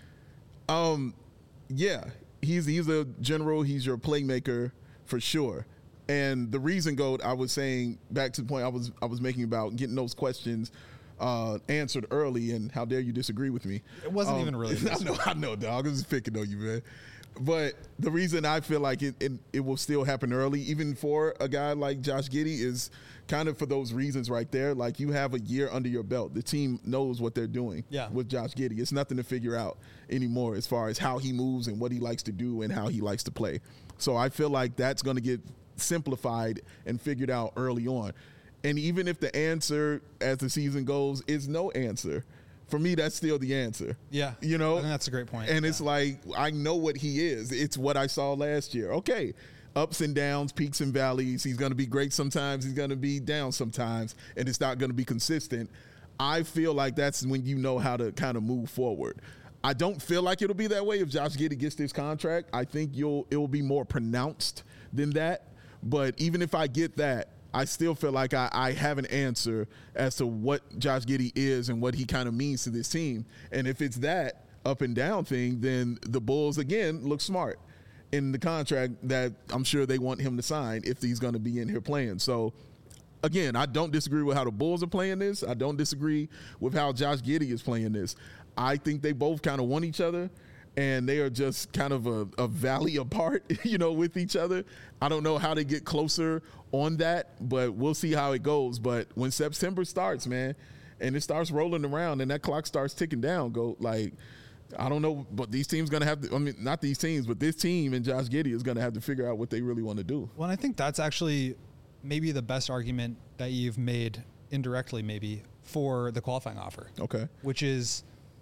Yeah, he's a general. He's your playmaker for sure. And the reason, Goat, I was saying back to the point I was making about getting those questions answered early, and how dare you disagree with me? It wasn't even really. I know, dog. I was just picking on you, man. But the reason I feel like it will still happen early, even for a guy like Josh Giddey, is kind of for those reasons right there. Like, you have a year under your belt. The team knows what they're doing with Josh Giddey. It's nothing to figure out anymore as far as how he moves and what he likes to do and how he likes to play. So I feel like that's going to get simplified and figured out early on. And even if the answer as the season goes is no answer, for me, that's still the answer. Yeah. You know? I think that's a great point. And it's like, I know what he is. It's what I saw last year. Okay. Ups and downs, peaks and valleys. He's going to be great sometimes. He's going to be down sometimes. And it's not going to be consistent. I feel like that's when you know how to kind of move forward. I don't feel like it'll be that way if Josh Giddey gets this contract. I think it will be more pronounced than that. But even if I get that, I still feel like I have an answer as to what Josh Giddey is and what he kind of means to this team. And if it's that up and down thing, then the Bulls, again, look smart in the contract that I'm sure they want him to sign if he's going to be in here playing. So, again, I don't disagree with how the Bulls are playing this. I don't disagree with how Josh Giddey is playing this. I think they both kind of want each other, and they are just kind of a valley apart, with each other. I don't know how they get closer on that, but we'll see how it goes. But when September starts, man, and it starts rolling around and that clock starts ticking down, I don't know, but these teams going to have to, not these teams, but this team and Josh Giddey is going to have to figure out what they really want to do. Well, I think that's actually maybe the best argument that you've made indirectly maybe for the qualifying offer. Okay. Which is,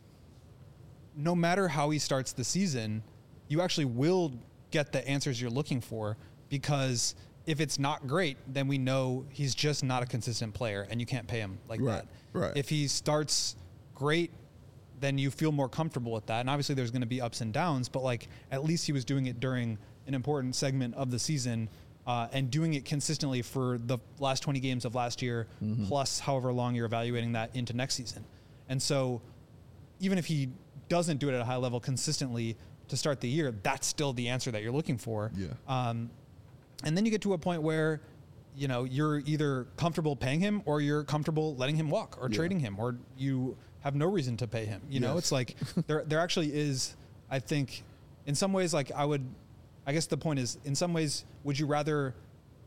no matter how he starts the season, you actually will get the answers you're looking for, because if it's not great, then we know he's just not a consistent player and you can't pay him like that. Right. If he starts great, then you feel more comfortable with that. And obviously there's going to be ups and downs, but at least he was doing it during an important segment of the season, and doing it consistently for the last 20 games of last year, plus however long you're evaluating that into next season. And so even if he doesn't do it at a high level consistently to start the year, that's still the answer that you're looking for. Yeah. And then you get to a point where, you're either comfortable paying him or you're comfortable letting him walk or trading him, or you have no reason to pay him. It's like there actually is, I think, in some ways, I guess the point is, in some ways, would you rather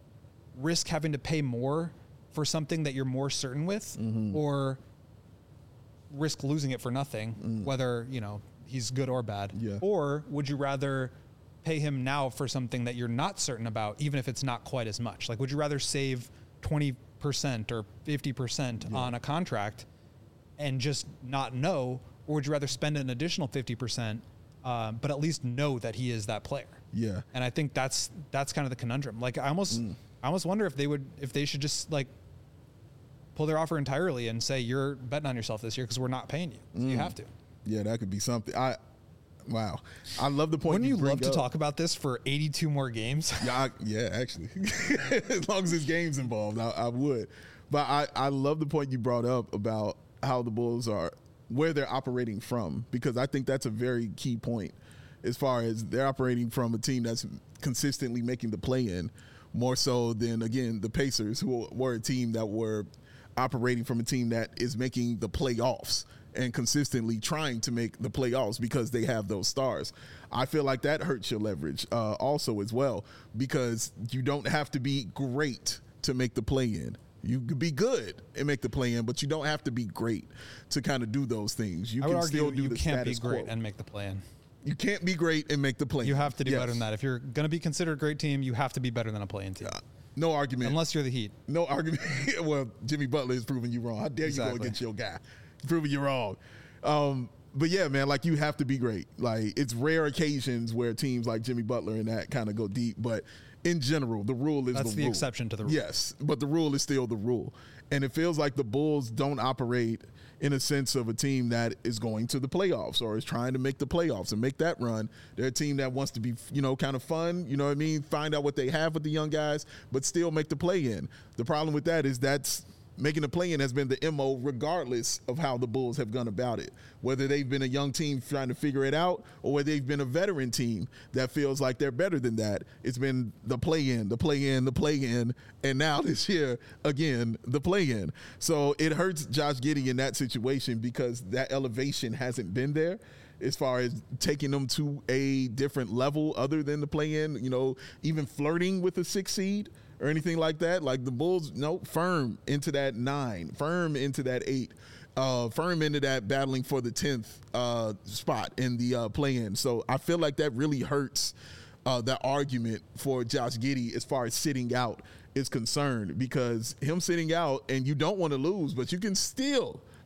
risk having to pay more for something that you're more certain with, or risk losing it for nothing, whether, he's good or bad? Yeah. Or would you rather pay him now for something that you're not certain about, even if it's not quite as much? Would you rather save 20% or 50% on a contract and just not know, or would you rather spend an additional 50%, but at least know that he is that player? Yeah. And I think that's kind of the conundrum. I almost wonder if they should just pull their offer entirely and say, you're betting on yourself this year because we're not paying you. So you have to. Yeah, that could be something. Wow. I love the point. Wouldn't you love to talk about this for 82 more games? Yeah, actually. As long as there's games involved, I would. But I love the point you brought up about how the Bulls are, where they're operating from, because I think that's a very key point as far as they're operating from a team that's consistently making the play-in, more so than, again, the Pacers, who were a team that were operating from a team that is making the playoffs and consistently trying to make the playoffs because they have those stars. I feel like that hurts your leverage also as well, because you don't have to be great to make the play-in. You could be good and make the play-in, but you don't have to be great to kind of do those things. You can still do the status quo. You can't be great and make the play-in. You can't be great and make the play-in. You have to do better than that. If you're going to be considered a great team, you have to be better than a play-in team. No argument. Unless you're the Heat. No argument. Well, Jimmy Butler is proving you wrong. How dare you go against your guy? Proving you wrong. But yeah, man, you have to be great. It's rare occasions where teams like Jimmy Butler and that kind of go deep, but in general, the rule is That's the exception to the rule. Yes, but the rule is still the rule. And it feels like the Bulls don't operate in a sense of a team that is going to the playoffs or is trying to make the playoffs and make that run. They're a team that wants to be, kind of fun, find out what they have with the young guys, but still make the play-in. The problem with that is that's making the play-in has been the MO regardless of how the Bulls have gone about it, whether they've been a young team trying to figure it out or whether they've been a veteran team that feels like they're better than that. It's been the play-in, and now this year, again, the play-in. So it hurts Josh Giddey in that situation because that elevation hasn't been there as far as taking them to a different level other than the play-in, even flirting with a 6 seed or anything like that. The Bulls, firm into that 9, firm into that 8, firm into that battling for the 10th spot in the play-in. So I feel like that really hurts that argument for Josh Giddey as far as sitting out is concerned, because him sitting out, and you don't want to lose, but you can still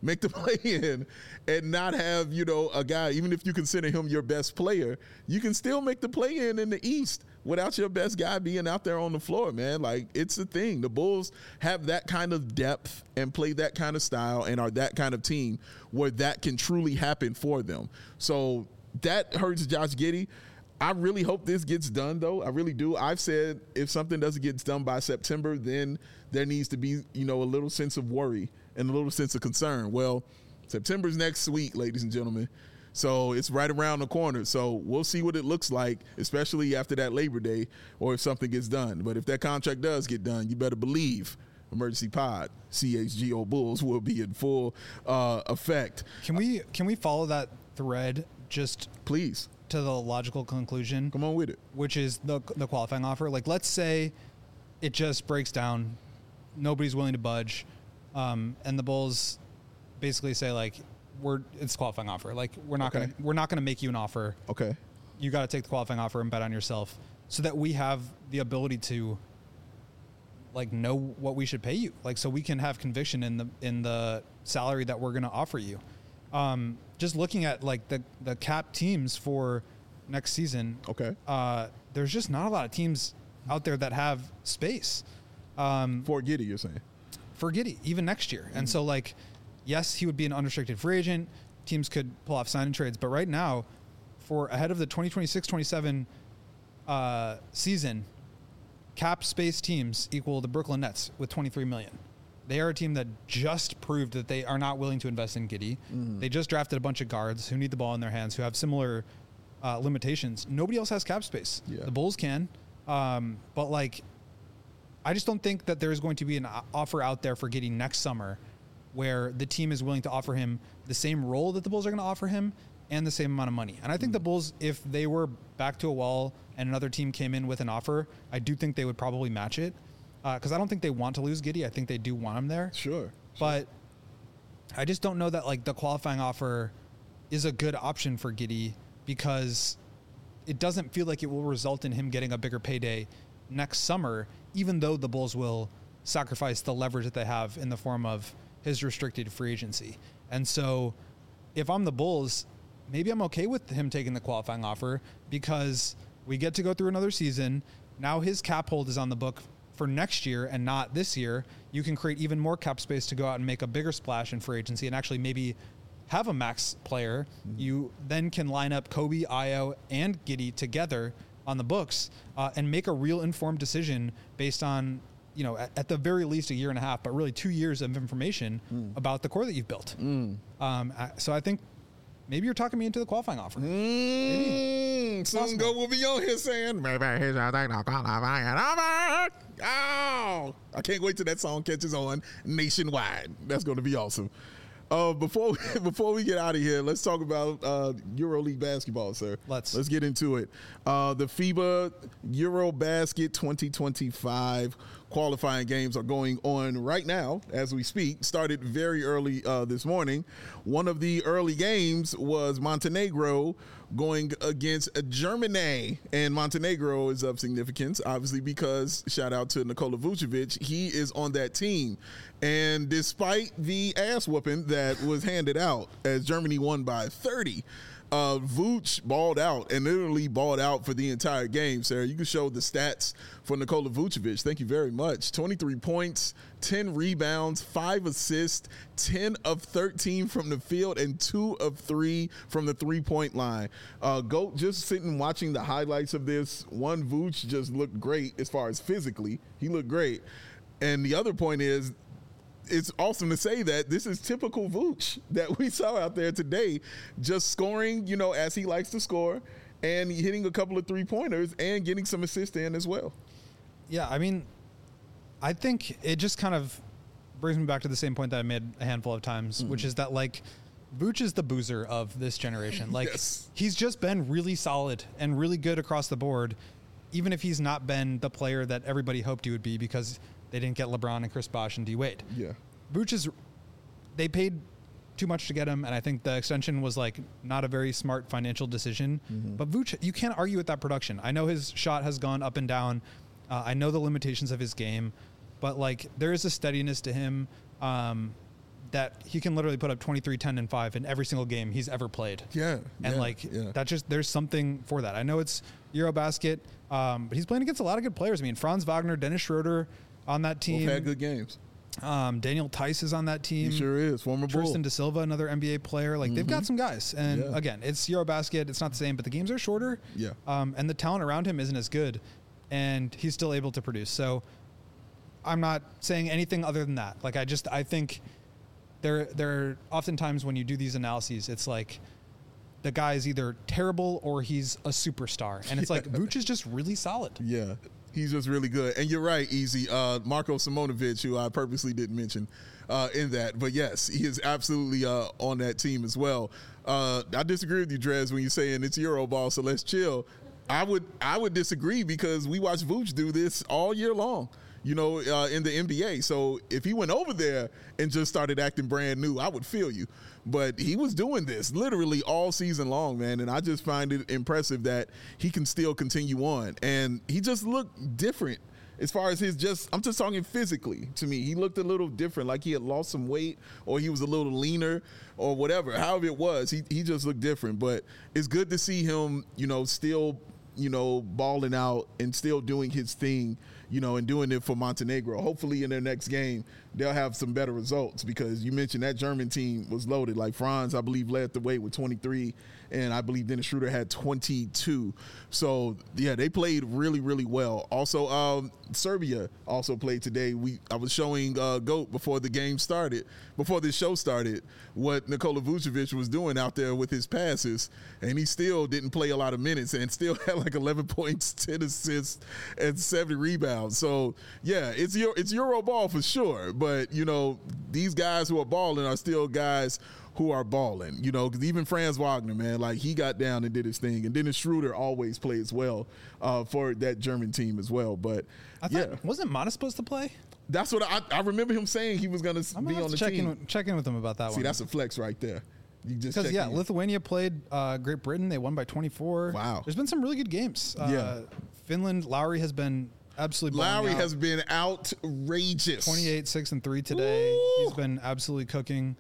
make the play-in and not have, a guy, even if you consider him your best player, you can still make the play-in in the East without your best guy being out there on the floor, man. Like, it's a thing. The Bulls have that kind of depth and play that kind of style and are that kind of team where that can truly happen for them. So that hurts Josh Giddey. I really hope this gets done, though. I really do. I've said if something doesn't get done by September, then there needs to be, a little sense of worry and a little sense of concern. Well, September's next week, ladies and gentlemen. So it's right around the corner. So we'll see what it looks like, especially after that Labor Day, or if something gets done. But if that contract does get done, you better believe Emergency Pod, CHGO Bulls, will be in full effect. Can we follow that thread just please to the logical conclusion? Come on with it. Which is the qualifying offer. Like, let's say it just breaks down, nobody's willing to budge, and the Bulls basically say, like, it's qualifying offer. Like, we're not gonna make you an offer. Okay. You got to take the qualifying offer and bet on yourself, so that we have the ability to, like, know what we should pay you. Like, so we can have conviction in the salary that we're gonna offer you. Just looking at, like, the cap teams for next season. Okay. There's just not a lot of teams out there that have space. For Giddey, you're saying? For Giddey, even next year. Mm-hmm. And so, like, yes, he would be an unrestricted free agent. Teams could pull off signing trades. But right now, for ahead of the 2026-27 season, cap space teams equal the Brooklyn Nets with $23 million. They are a team that just proved that they are not willing to invest in Giddey. Mm-hmm. They just drafted a bunch of guards who need the ball in their hands, who have similar limitations. Nobody else has cap space. Yeah. The Bulls can. But, like, I just don't think that there's going to be an offer out there for Giddey next summer where the team is willing to offer him the same role that the Bulls are going to offer him and the same amount of money. And I think the Bulls, if they were back to a wall and another team came in with an offer, I do think they would probably match it. Because I don't think they want to lose Giddey. I think they do want him there. Sure. But I just don't know that, like, the qualifying offer is a good option for Giddey, because it doesn't feel like it will result in him getting a bigger payday next summer, even though the Bulls will sacrifice the leverage that they have in the form of his restricted free agency. And so if I'm the Bulls, maybe I'm okay with him taking the qualifying offer, because we get to go through another season. Now his cap hold is on the book for next year and not this year. You can create even more cap space to go out and make a bigger splash in free agency and actually maybe have a max player. Mm-hmm. You then can line up Kobe, Ayo, and Giddey together on the books and make a real informed decision based on, at the very least a year and a half, but really 2 years of information about the core that you've built. So I think maybe you're talking me into the qualifying offer. Soon Go will be on here saying, maybe he's a qualifying offer. Oh, I can't wait till that song catches on nationwide. That's going to be awesome. Before we get out of here, let's talk about EuroLeague basketball, sir. Let's get into it. The FIBA EuroBasket 2025 qualifying games are going on right now as we speak. Started very early this morning. One of the early games was Montenegro going against Germany, and Montenegro is of significance, obviously, because shout out to Nikola Vucevic, he is on that team. And despite the ass whooping that was handed out as Germany won by 30, Vooch balled out and literally balled out for the entire game, Sarah. You can show the stats for Nikola Vucevic. Thank you very much. 23 points, 10 rebounds, 5 assists, 10 of 13 from the field, and 2 of 3 from the three-point line. GOAT, just sitting watching the highlights of this, one, Vooch just looked great as far as physically. He looked great. And the other point is, it's awesome to say that this is typical Vooch that we saw out there today, just scoring, as he likes to score, and hitting a couple of three-pointers and getting some assists in as well. Yeah, I mean, I think it just kind of brings me back to the same point that I made a handful of times, which is that, like, Vooch is the boozer of this generation. Like, yes. He's just been really solid and really good across the board, even if he's not been the player that everybody hoped he would be, because they didn't get LeBron and Chris Bosh and D Wade. Yeah. Vooch they paid too much to get him, and I think the extension was, like, not a very smart financial decision. Mm-hmm. But Vooch, you can't argue with that production. I know his shot has gone up and down. I know the limitations of his game, but, like, there is a steadiness to him. that he can literally put up 23, 10, and 5 in every single game he's ever played. Yeah. And that just, there's something for that. I know it's Eurobasket, but he's playing against a lot of good players. I mean, Franz Wagner, Dennis Schroeder on that team. Both had good games. Daniel Tice is on that team. He sure is. Former Bull. Tristan Da Silva, another NBA player. Like, they've got some guys. And again, it's Eurobasket. It's not the same, but the games are shorter. Yeah. And the talent around him isn't as good. And he's still able to produce. So I'm not saying anything other than that. Like, I think there oftentimes when you do these analyses, it's like the guy is either terrible or he's a superstar. And it's like, Vooch is just really solid. Yeah. He's just really good. And you're right, Easy. Marko Simonovic, who I purposely didn't mention in that. But yes, he is absolutely on that team as well. I disagree with you, Drez, when you're saying it's Euroball, so let's chill. I would disagree because we watched Vooch do this all year long, in the NBA. So if he went over there and just started acting brand new, I would feel you. But he was doing this literally all season long, man. And I just find it impressive that he can still continue on. And he just looked different as far as I'm just talking physically to me. He looked a little different, like he had lost some weight or he was a little leaner or whatever. However it was, he just looked different. But it's good to see him, still, balling out and still doing his thing, and doing it for Montenegro. Hopefully in their next game, they'll have some better results because you mentioned that German team was loaded. Like Franz, I believe, led the way with 23, and I believe Dennis Schroeder had 22. So, yeah, they played really, really well. Also, Serbia also played today. I was showing GOAT before this show started, what Nikola Vucevic was doing out there with his passes, and he still didn't play a lot of minutes and still had like 11 points, 10 assists, and 70 rebounds. So, yeah, it's Euro ball for sure. But, these guys who are balling are still guys who are balling, because even Franz Wagner, man, like he got down and did his thing. And Dennis Schroeder always plays well for that German team as well. But wasn't Mana supposed to play? That's what I remember him saying he was going to be on the team. Check in with him about that one. See, that's a flex right there. You just Lithuania played Great Britain. They won by 24. Wow. There's been some really good games. Finland, Lowry has been absolutely Lowry has been outrageous. 28, 6, and 3 today. Ooh. He's been absolutely cooking.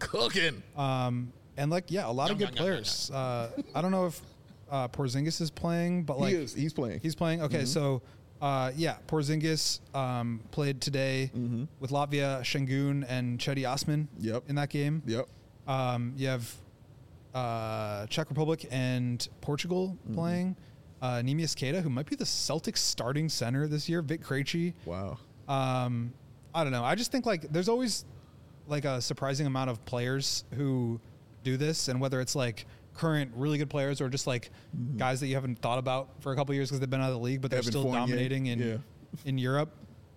And a lot of good players. I don't know if Porzingis is playing, but he's playing. He's playing. Okay, so Porzingis played today with Latvia, Şengün, and Cedi Osman in that game. Yep. You have Czech Republic and Portugal playing. Neemias Queta, who might be the Celtics starting center this year. Vic Krejci. Wow. I don't know. I just think there's always a surprising amount of players who do this, and whether it's current really good players or just guys that you haven't thought about for a couple of years because they've been out of the league, but they're still dominating in Europe.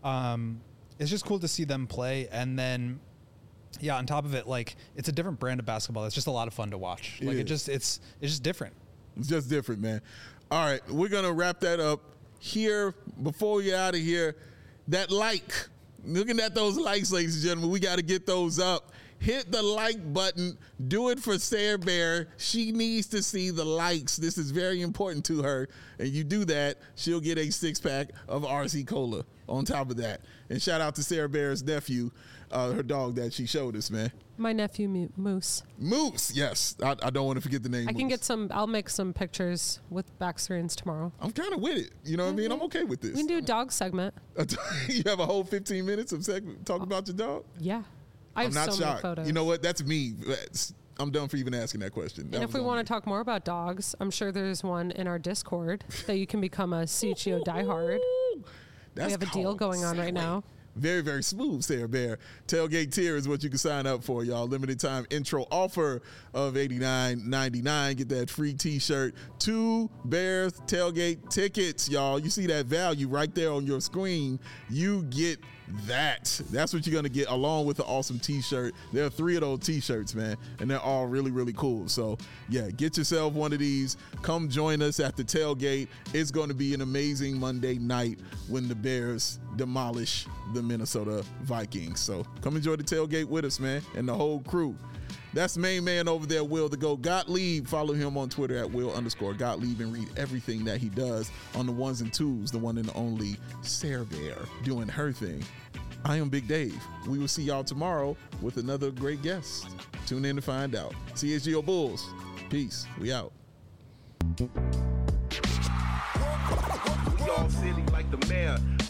It's just cool to see them play. And then, on top of it, it's a different brand of basketball. It's just a lot of fun to watch. It's just different. It's just different, man. All right, we're going to wrap that up here. Before we get out of here, looking at those likes, ladies and gentlemen, we got to get those up. Hit the like button. Do it for Sarah Bear. She needs to see the likes. This is very important to her. And you do that, she'll get a 6-pack of RC Cola on top of that. And shout out to Sarah Bear's nephew, her dog that she showed us, man. My nephew, Moose. Moose, yes. I don't want to forget the name. I can get I'll make some pictures with back screens tomorrow. I'm kind of with it. You know what I mean? I'm okay with this. We can do a dog segment. You have a whole 15 minutes of segment talking about your dog? Yeah. I'm not so shocked. Many photos. You know what? That's me. I'm done for even asking that question. And if we want to talk more about dogs, I'm sure there's one in our Discord that you can become a CHGO diehard. We have a deal going on right now. Very, very smooth, Sarah Bear. Tailgate tier is what you can sign up for, y'all. Limited time intro offer of $89.99. Get that free T-shirt. 2 Bears tailgate tickets, y'all. You see that value right there on your screen. You get that. That's what you're going to get along with the awesome T-shirt. There are 3 of those T-shirts, man, and they're all really, really cool. So, yeah, get yourself one of these. Come join us at the tailgate. It's going to be an amazing Monday night when the Bears demolish the Minnesota Vikings. So come enjoy the tailgate with us, man, and the whole crew. That's main man over there, Will the Go Gottlieb. Follow him on Twitter at Will_Gottlieb and read everything that he does on the ones and twos, the one and only Sarah Bear doing her thing I am Big Dave. We will see y'all tomorrow with another great guest. Tune in to find out. CHGO Bulls. Peace. We out. We all silly like the mayor.